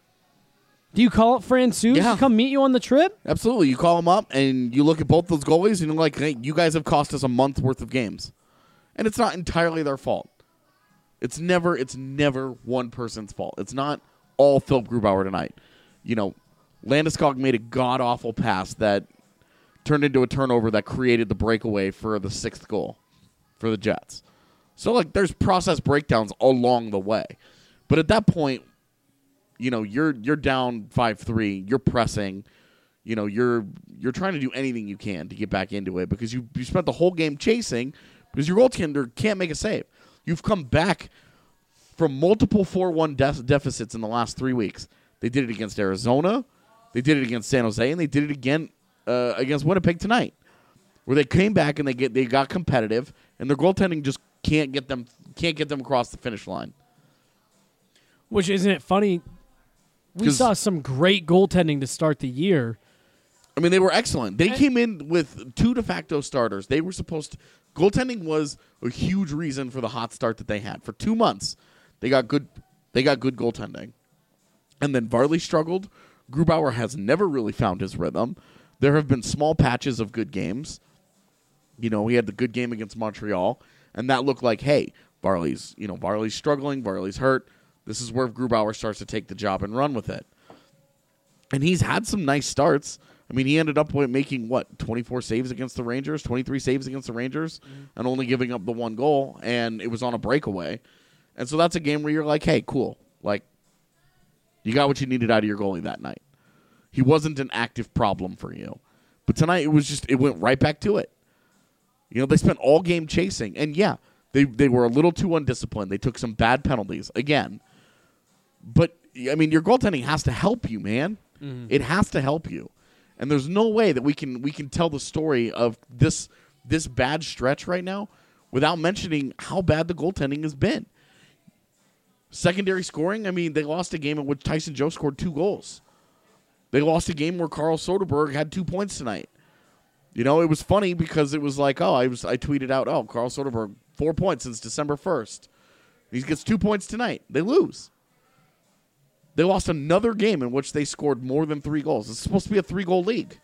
Do you call up Francouz Yeah. to come meet you on the trip? Absolutely. You call him up and you look at both those goalies and you're like, hey, you guys have cost us a month worth of games. And it's not entirely their fault. It's never it's never one person's fault. It's not all Philip Grubauer tonight. You know, Landeskog made a god-awful pass that turned into a turnover that created the breakaway for the sixth goal for the Jets. So, like, there's process breakdowns along the way. But at that point, you know, you're you're down five three, you're pressing, you know, you're you're trying to do anything you can to get back into it because you, you spent the whole game chasing because your goaltender can't make a save. You've come back from multiple four one de- deficits in the last three weeks. They did it against Arizona, they did it against San Jose, and they did it again uh, against Winnipeg tonight, where they came back and they get they got competitive, and their goaltending just can't get them can't get them across the finish line. Which, isn't it funny? We saw some great goaltending to start the year. I mean, they were excellent. They And- came in with two de facto starters. They were supposed to, goaltending was a huge reason for the hot start that they had. For two months, they got good they got good goaltending. And then Varley struggled. Grubauer has never really found his rhythm. There have been small patches of good games. You know, he had the good game against Montreal, and that looked like, hey, Varley's, you know, Varley's struggling, Varley's hurt. This is where Grubauer starts to take the job and run with it. And he's had some nice starts. I mean, he ended up with making, what, twenty-four saves against the Rangers, twenty-three saves against the Rangers, mm-hmm. and only giving up the one goal, and it was on a breakaway. And so that's a game where you're like, hey, cool. Like, you got what you needed out of your goalie that night. He wasn't an active problem for you. But tonight, it was just, it went right back to it. You know, they spent all game chasing. And, yeah, they, they were a little too undisciplined. They took some bad penalties, again. But, I mean, your goaltending has to help you, man. Mm-hmm. It has to help you. And there's no way that we can we can tell the story of this this bad stretch right now without mentioning how bad the goaltending has been. Secondary scoring, I mean, they lost a game in which Tyson Joe scored two goals. They lost a game where Carl Soderberg had two points tonight. You know, it was funny because it was like, oh, I was I tweeted out, oh, Carl Soderberg, four points since December first. He gets two points tonight. They lose. They lost another game in which they scored more than three goals. It's supposed to be a three-goal league.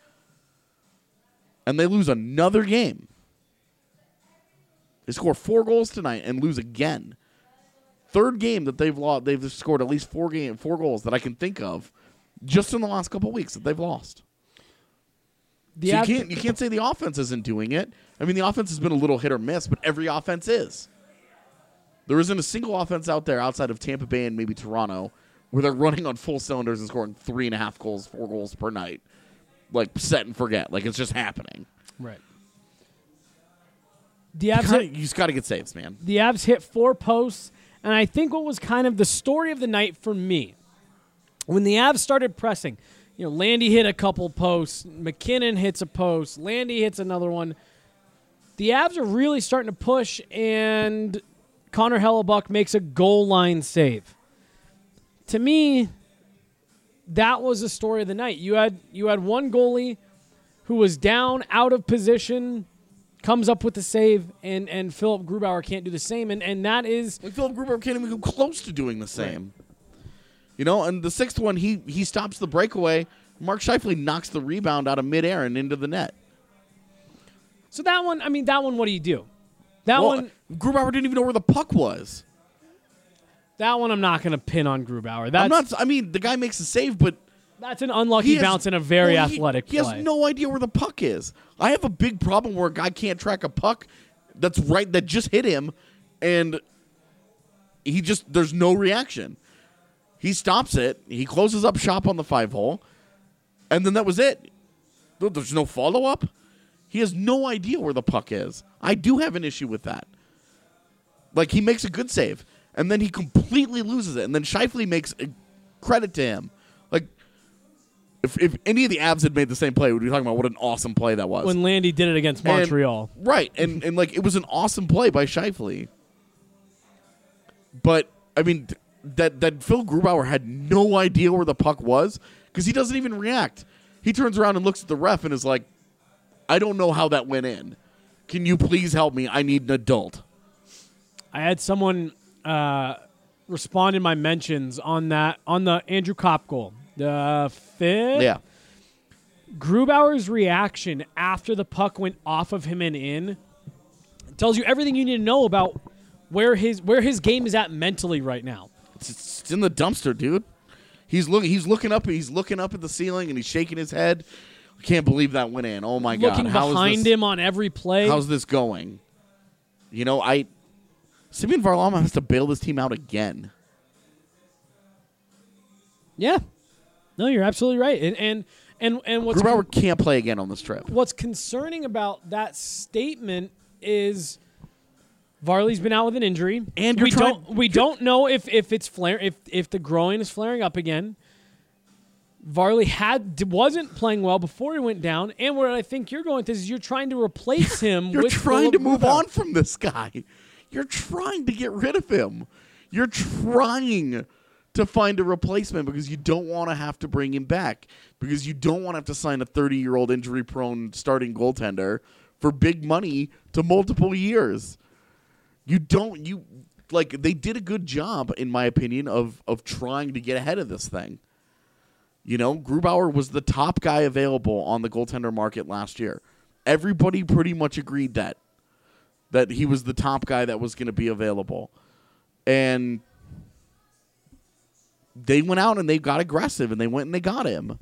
And they lose another game. They score four goals tonight and lose again. Third game that they've lost, they've scored at least four game, four goals that I can think of just in the last couple of weeks that they've lost. So you can't you can't say the offense isn't doing it. I mean, the offense has been a little hit or miss, but every offense is. There isn't a single offense out there outside of Tampa Bay and maybe Toronto where they're running on full cylinders and scoring three and a half goals, four goals per night. Like, set and forget. Like, it's just happening. Right. The Avs you, kinda, hit, you just got to get saves, man. The Avs hit four posts, and I think what was kind of the story of the night for me, when the Avs started pressing, you know, Landy hit a couple posts, McKinnon hits a post, Landy hits another one. The Avs are really starting to push, and Connor Hellebuck makes a goal line save. To me, that was the story of the night. You had you had one goalie who was down, out of position, comes up with the save, and, and Philip Grubauer can't do the same, and, and that is... Like Philip Grubauer can't even come close to doing the same. Right. You know, and the sixth one, he he stops the breakaway. Mark Scheifele knocks the rebound out of midair and into the net. So that one, I mean, that one, what do you do? That well, one... Grubauer didn't even know where the puck was. That one I'm not going to pin on Grubauer. That's, I'm not, I mean, the guy makes a save, but... That's an unlucky has, bounce in a very well, he, athletic he play. He has no idea where the puck is. I have a big problem where a guy can't track a puck that's right, that just hit him, and he just, there's no reaction. He stops it. He closes up shop on the five hole, and then that was it. There's no follow-up. He has no idea where the puck is. I do have an issue with that. Like, he makes a good save, and then he completely loses it, and then Scheifele makes a credit to him. Like, if, if any of the Avs had made the same play, we'd be talking about what an awesome play that was. When Landy did it against Montreal. And, right, and, and, like, it was an awesome play by Scheifele. But, I mean... That that Phil Grubauer had no idea where the puck was because he doesn't even react. He turns around and looks at the ref and is like, I don't know how that went in. Can you please help me? I need an adult. I had someone uh, respond in my mentions on that on the Andrew Kopp goal. The fifth? Yeah. Grubauer's reaction after the puck went off of him and in tells you everything you need to know about where his where his game is at mentally right now. It's, it's in the dumpster, dude. He's looking. He's looking up. He's looking up at the ceiling, and he's shaking his head. I can't believe that went in. Oh my god! Looking behind him on every play. How's this going? You know, I. Semyon Varlamov has to bail this team out again. Yeah. No, you're absolutely right. And and and and what's Grubauer con- can't play again on this trip. What's concerning about that statement is. Varley's been out with an injury, and we trying, don't we don't know if, if it's flare if if the groin is flaring up again. Varley had wasn't playing well before he went down, and what I think you're going to is you're trying to replace him. You're with trying Philip to move Grubauer. on from this guy. You're trying to get rid of him. You're trying to find a replacement because you don't want to have to bring him back because you don't want to have to sign a thirty-year-old injury-prone starting goaltender for big money to multiple years. You don't, you, like, they did a good job, in my opinion, of of trying to get ahead of this thing. You know, Grubauer was the top guy available on the goaltender market last year. Everybody pretty much agreed that, that he was the top guy that was going to be available. And they went out and they got aggressive, and they went and they got him.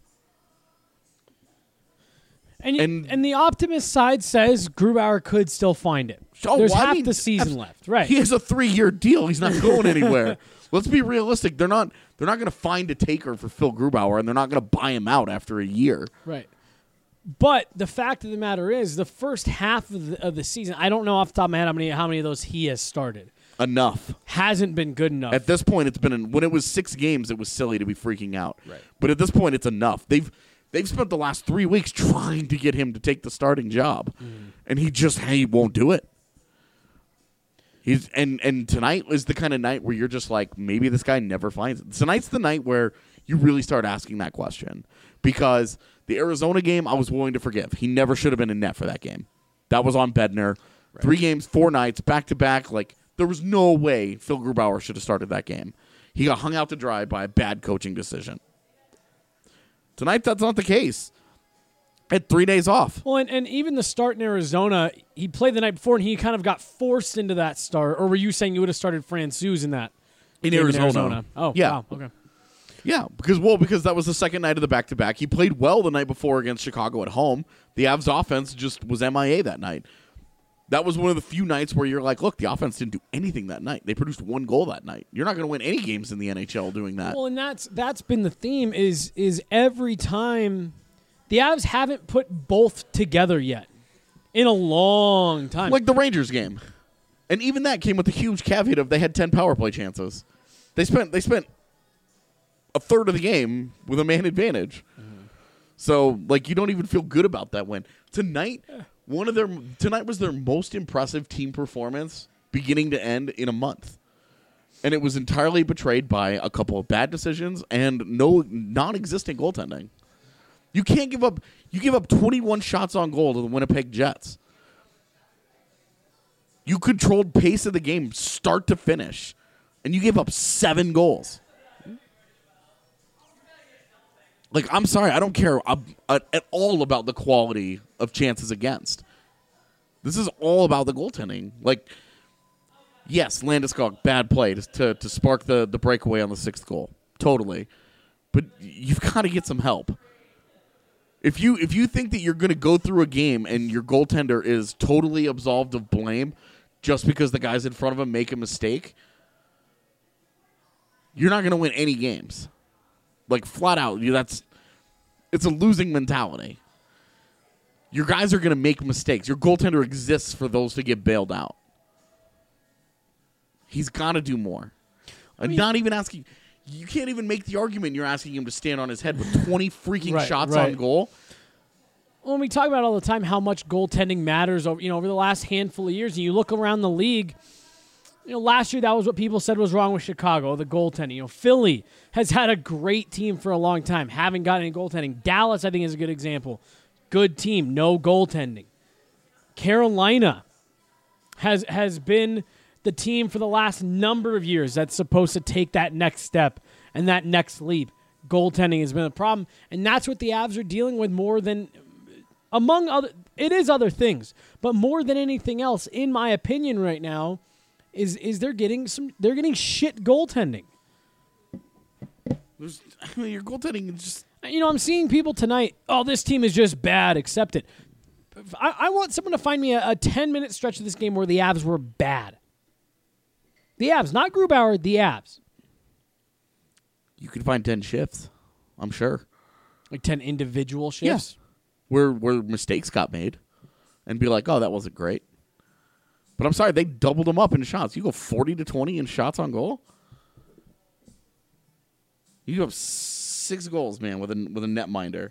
And, you, and and the optimist side says Grubauer could still find it. Oh, There's well, half I mean, the season left, right? He has a three-year deal. He's not going anywhere. Let's be realistic. They're not. They're not going to find a taker for Phil Grubauer, and they're not going to buy him out after a year. Right. But the fact of the matter is, the first half of the, of the season, I don't know off the top of my head how many how many of those he has started. Enough. Hasn't been good enough. At this point, it's been an, when it was six games, it was silly to be freaking out. Right. But at this point, it's enough. They've. They've spent the last three weeks trying to get him to take the starting job, mm. and he just he won't do it. He's and and tonight is the kind of night where you're just like, maybe this guy never finds it. Tonight's the night where you really start asking that question, because the Arizona game I was willing to forgive. He never should have been in net for that game. That was on Bednar. Right. Three games, four nights, back to back. Like, there was no way Phil Grubauer should have started that game. He got hung out to dry by a bad coaching decision. Tonight, that's not the case. Had three days off. Well, and, and even the start in Arizona, he played the night before, and he kind of got forced into that start. Or were you saying you would have started Francouz in that? In Arizona. in Arizona. Oh, yeah. Wow. Okay. Yeah, because well, because that was the second night of the back-to-back. He played well the night before against Chicago at home. The Avs offense just was M I A that night. That was one of the few nights where you're like, look, the offense didn't do anything that night. They produced one goal that night. You're not going to win any games in the N H L doing that. Well, and that's that's been the theme is is every time the Avs haven't put both together yet in a long time. Like the Rangers game. And even that came with a huge caveat of they had ten power play chances. They spent they spent a third of the game with a man advantage. Mm-hmm. So, like, you don't even feel good about that win. Tonight, yeah. One of their tonight was their most impressive team performance, beginning to end, in a month, and it was entirely betrayed by a couple of bad decisions and no non-existent goaltending. You can't give up. You give up twenty-one shots on goal to the Winnipeg Jets. You controlled pace of the game start to finish, and you gave up seven goals. Like, I'm sorry, I don't care uh, uh, at all about the quality of chances against. This is all about the goaltending. Like, yes, Landeskog, bad play to, to, to spark the, the breakaway on the sixth goal. Totally. But you've got to get some help. If you if you think that you're going to go through a game and your goaltender is totally absolved of blame just because the guys in front of him make a mistake, you're not going to win any games. Like, flat out, you, that's it's a losing mentality. Your guys are going to make mistakes. Your goaltender exists for those to get bailed out. He's got to do more. I'm not even asking. You can't even make the argument you're asking him to stand on his head with twenty freaking Right, shots right. on goal. When we talk about all the time how much goaltending matters over you know over the last handful of years, and you look around the league, you know, last year that was what people said was wrong with Chicago, the goaltending. You know, Philly has had a great team for a long time, haven't got any goaltending. Dallas, I think, is a good example. Good team, no goaltending. Carolina has has been the team for the last number of years that's supposed to take that next step and that next leap. Goaltending has been a problem, and that's what the Avs are dealing with more than, among other, it is other things, but more than anything else, in my opinion right now, is is they're getting some, they're getting shit goaltending. There's, I mean, your goaltending is just... You know, I'm seeing people tonight, oh, this team is just bad, accept it. I, I want someone to find me a, a ten-minute stretch of this game where the Avs were bad. The Avs, not Grubauer, the Avs. You could find ten shifts, I'm sure. Like ten individual shifts? Yeah. Where, where mistakes got made. And be like, oh, that wasn't great. But I'm sorry, they doubled them up in shots. You go forty to twenty in shots on goal? You have six goals, man, with a, with a netminder.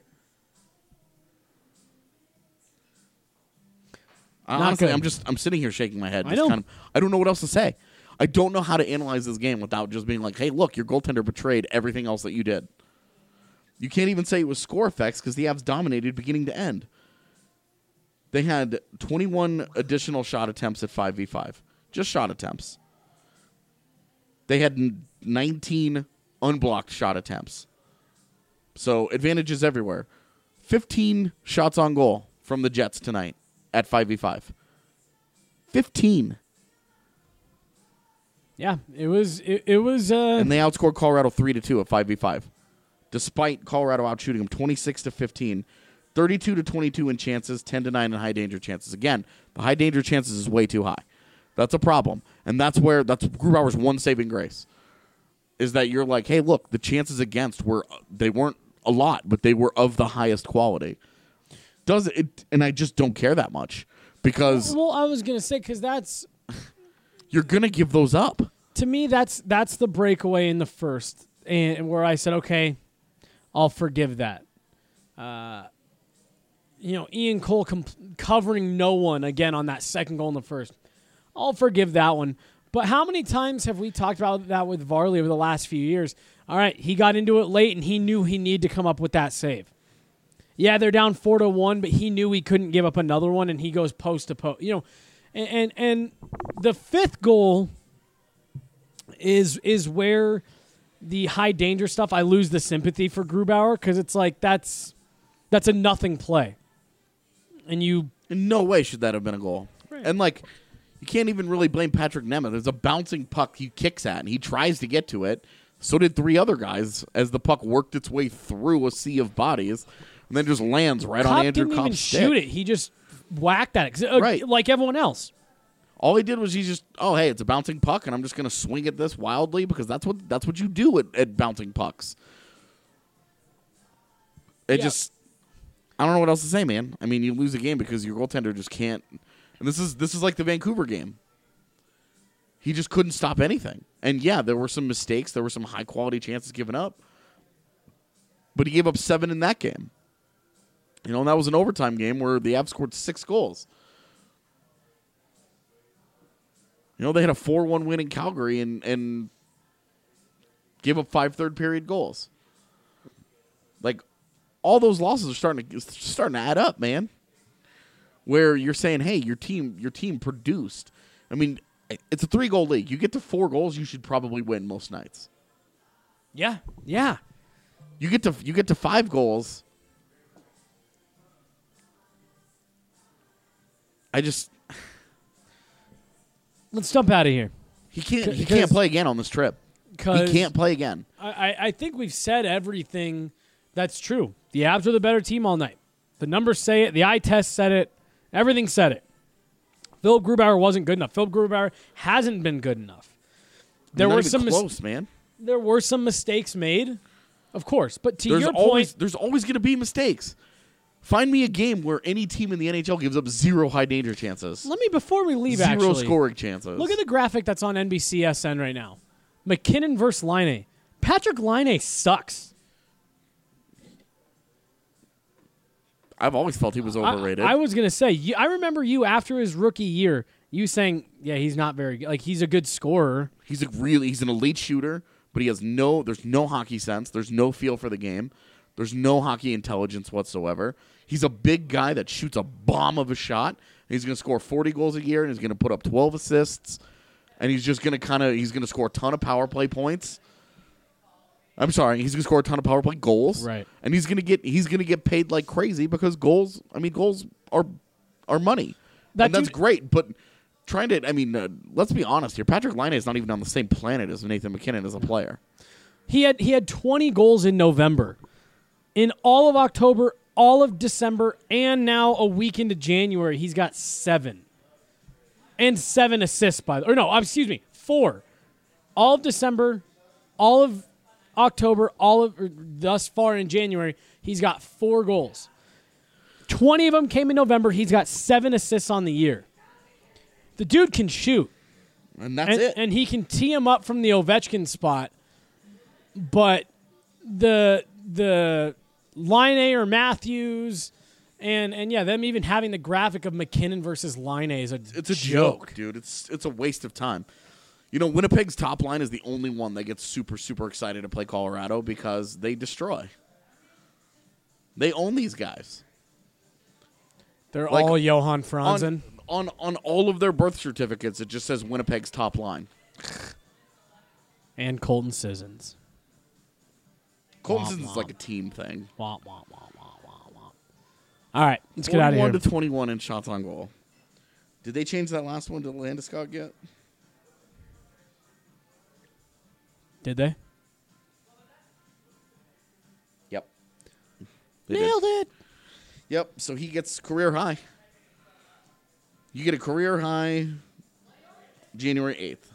Honestly, good. I'm just I'm sitting here shaking my head. I Just know. Kind of, I don't know what else to say. I don't know how to analyze this game without just being like, hey, look, your goaltender betrayed everything else that you did. You can't even say it was score effects because the Avs dominated beginning to end. They had twenty-one additional shot attempts at five v five. Just shot attempts. They had nineteen unblocked shot attempts. So advantages everywhere. fifteen shots on goal from the Jets tonight at five v five. fifteen. Yeah, it was it, it was uh And they outscored Colorado three to two at five v five. Despite Colorado outshooting them twenty-six to fifteen. thirty-two to twenty-two in chances, ten to nine in high danger chances. Again, the high danger chances is way too high. That's a problem. And that's where that's Grubauer's one saving grace. Is that you're like, hey, look, the chances against were they weren't a lot, but they were of the highest quality. Does it and I just don't care that much because well, I was going to say cuz that's you're going to give those up. to me that's that's the breakaway in the first and where I said, "Okay, I'll forgive that." Uh You know, Ian Cole com- covering no one again on that second goal in the first. I'll forgive that one. But how many times have we talked about that with Varley over the last few years? All right, he got into it late, and he knew he needed to come up with that save. Yeah, they're down four to one, but he knew he couldn't give up another one, and he goes post to post. You know, and and, and the fifth goal is is where the high danger stuff. I lose the sympathy for Grubauer because it's like that's that's a nothing play. And you... In no way should that have been a goal. Right. And, like, you can't even really blame Patrick Nemeth. There's a bouncing puck he kicks at, and he tries to get to it. So did three other guys as the puck worked its way through a sea of bodies and then just lands right Copp on Andrew didn't even Kopp's stick. shoot it. He just whacked at it. Uh, Right. Like everyone else. All he did was he just, oh, hey, it's a bouncing puck, and I'm just going to swing at this wildly because that's what that's what you do at, at bouncing pucks. It Yeah. just... I don't know what else to say, man. I mean, you lose a game because your goaltender just can't. And this is this is like the Vancouver game. He just couldn't stop anything. And yeah, there were some mistakes. There were some high quality chances given up. But he gave up seven in that game. You know, and that was an overtime game where the Avs scored six goals. You know, they had a four one win in Calgary and and gave up five third period goals. Like, all those losses are starting to starting to add up, man. Where you're saying, "Hey, your team, your team produced," I mean, it's a three-goal league. You get to four goals, you should probably win most nights. Yeah, yeah. You get to you get to five goals. I just Let's jump out of here. he can't he Because- can't play again on this trip. He 'Cause can't play again. I, I- I think we've said everything that's true. The Avs are the better team all night. The numbers say it. The eye test said it. Everything said it. Philip Grubauer wasn't good enough. Philip Grubauer hasn't been good enough. There Not were even some mis- close, man. there were some mistakes made, of course. But to There's your always point, there's always going to be mistakes. Find me a game where any team in the N H L gives up zero high danger chances. let me before we leave. Zero actually, scoring chances. look at the graphic that's on N B C S N right now. McKinnon versus Laine. Patrick Laine sucks. I've always felt he was I- overrated. I, was gonna say. You, I remember you after his rookie year. You saying, "Yeah, he's not very good. Like he's a good scorer." He's a really he's an elite shooter, but he has no there's no hockey sense. There's no feel for the game. There's no hockey intelligence whatsoever. He's a big guy that shoots a bomb of a shot. He's going to score forty goals a year, and he's going to put up twelve assists, and he's just going to kind of he's going to score a ton of power play points. I'm sorry, he's going to score a ton of power play goals, Right. And he's going to get he's going to get paid like crazy because goals. I mean, goals are are money, That and that's dude- great. But trying to, I mean, uh, let's be honest here. Patrick Laine is not even on the same planet as Nathan McKinnon as a player. He had he had twenty goals in November. In all of October, all of December, and now a week into January, he's got seven. And seven assists, by the or no, excuse me, four. All of December, all of October, all of or thus far in January, he's got four goals. Twenty of them came in November. He's got seven assists on the year. The dude can shoot. And that's and, it. and he can tee him up from the Ovechkin spot, but the the Laine or Matthews, and and yeah, them even having the graphic of McKinnon versus Laine is a It's a joke, dude. It's it's a waste of time. You know, Winnipeg's top line is the only one that gets super, super excited to play Colorado because they destroy. They own these guys. They're Like, all Johan Franzen. On, on on all of their birth certificates, it just says Winnipeg's top line. And Colton Sissons. Colton Womp Sissons is womp. like a team thing. Womp, womp, womp, womp, womp, womp. All right, let's get out of here. forty-one to twenty-one in shots on goal. Did they change that last one to Landeskog yet? Did they? Yep. They did. Nailed it. Yep. So he gets career high. You get a career high January eighth.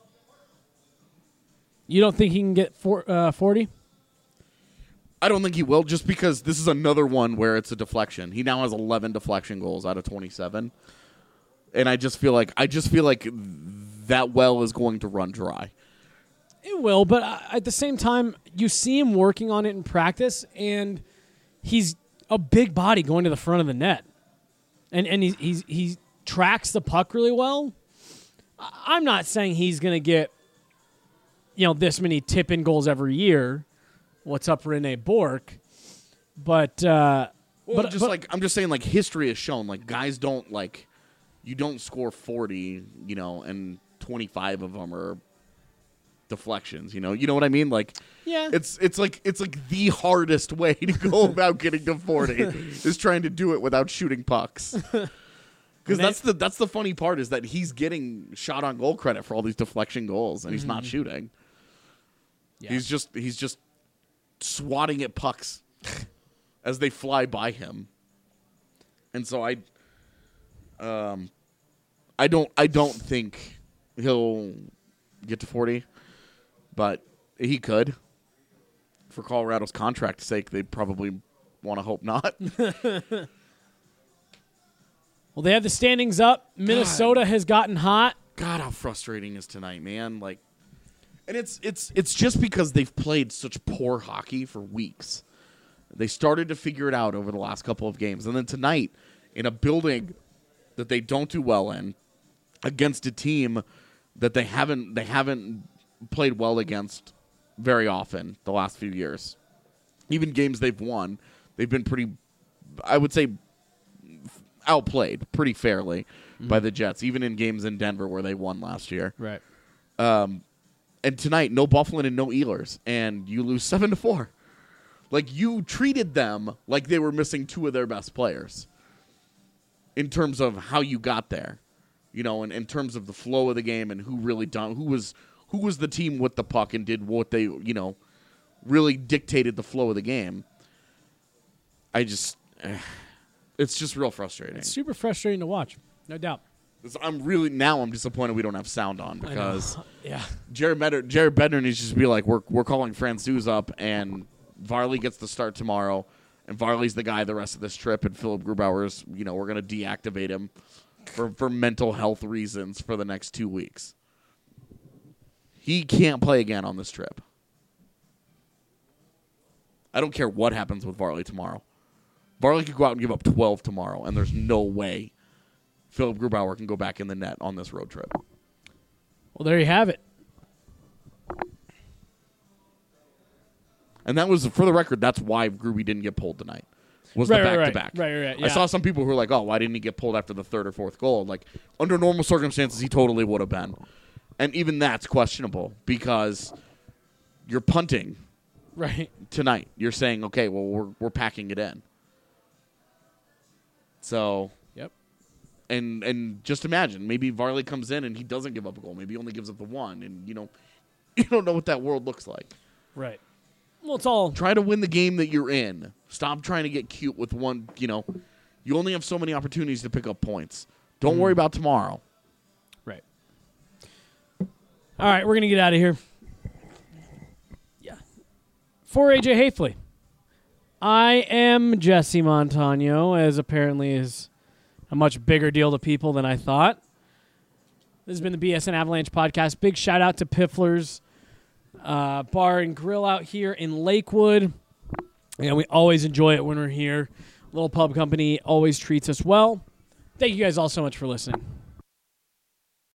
You don't think he can get four, uh, forty? I don't think he will, just because this is another one where it's a deflection. He now has eleven deflection goals out of twenty-seven. And I just feel like I just feel like that well is going to run dry. It will, but uh, at the same time, you see him working on it in practice, and he's a big body going to the front of the net, and and he he's, he tracks the puck really well. I- I'm not saying he's going to get, you know, this many tip-in goals every year. What's up, Rene Bourque? But uh, Well, but just but- like I'm just saying, like history has shown, like guys don't like you don't score forty, you know, and twenty-five of them are deflections. You know, you know what I mean? Like, Yeah. it's it's like it's like the hardest way to go about getting to forty is trying to do it without shooting pucks. Because that's the that's the funny part is that he's getting shot on goal credit for all these deflection goals, and he's not Mm-hmm. shooting. Yeah. He's just he's just swatting at pucks as they fly by him. And so I um I don't I don't think he'll get to forty, but he could. For Colorado's contract's sake, they probably want to hope not. well, they have the standings up. Minnesota has gotten hot. God, how frustrating is tonight, man? Like, and it's it's it's just because they've played such poor hockey for weeks. They started to figure it out over the last couple of games, and then tonight, in a building that they don't do well in, against a team that they haven't they haven't played well against very often the last few years. Even games they've won, they've been pretty. I would say, outplayed pretty fairly mm-hmm. by the Jets, even in games in Denver where they won last year. Right. Um, and tonight, no Bufflin and no Ehlers, and you lose seven to four. Like, you treated them like they were missing two of their best players in terms of how you got there, you know, and in terms of the flow of the game and who really done, who was who was the team with the puck and did what they, you know, really dictated the flow of the game. I just, eh, it's just real frustrating. It's super frustrating to watch, no doubt. I'm really now. I'm disappointed we don't have sound on because yeah, Jared Bednar, Jared Bednar needs to just be like, we're we're calling Francouz up and Varley gets the start tomorrow, and Varley's the guy the rest of this trip, and Philip Grubauer's, you know, we're gonna deactivate him for for mental health reasons for the next two weeks. He can't play again on this trip. I don't care what happens with Varley tomorrow. Varley could go out and give up twelve tomorrow, and there's no way Philip Grubauer can go back in the net on this road trip. Well, there you have it. And that was, for the record, that's why Gruby didn't get pulled tonight. Was right, the right, back-to-back. Right, right, right. Yeah. I saw some people who were like, oh, why didn't he get pulled after the third or fourth goal? Like, under normal circumstances, he totally would have been. And even that's questionable because you're punting right tonight. You're saying, okay, well, we're we're packing it in. So... Yep. And and just imagine, maybe Varley comes in and he doesn't give up a goal. Maybe he only gives up the one, and you know, you don't know what that world looks like. Right. Well, it's all try to win the game that you're in. Stop trying to get cute with one. You know, you only have so many opportunities to pick up points. Don't mm. worry about tomorrow. Right. All right, we're gonna get out of here. Yeah. For A J Hafley, I am Jesse Montano, as apparently is a much bigger deal to people than I thought. This has been the B S N Avalanche podcast. Big shout out to Piffler's uh, Bar and Grill out here in Lakewood. And we always enjoy it when we're here. Little Pub Company always treats us well. Thank you guys all so much for listening.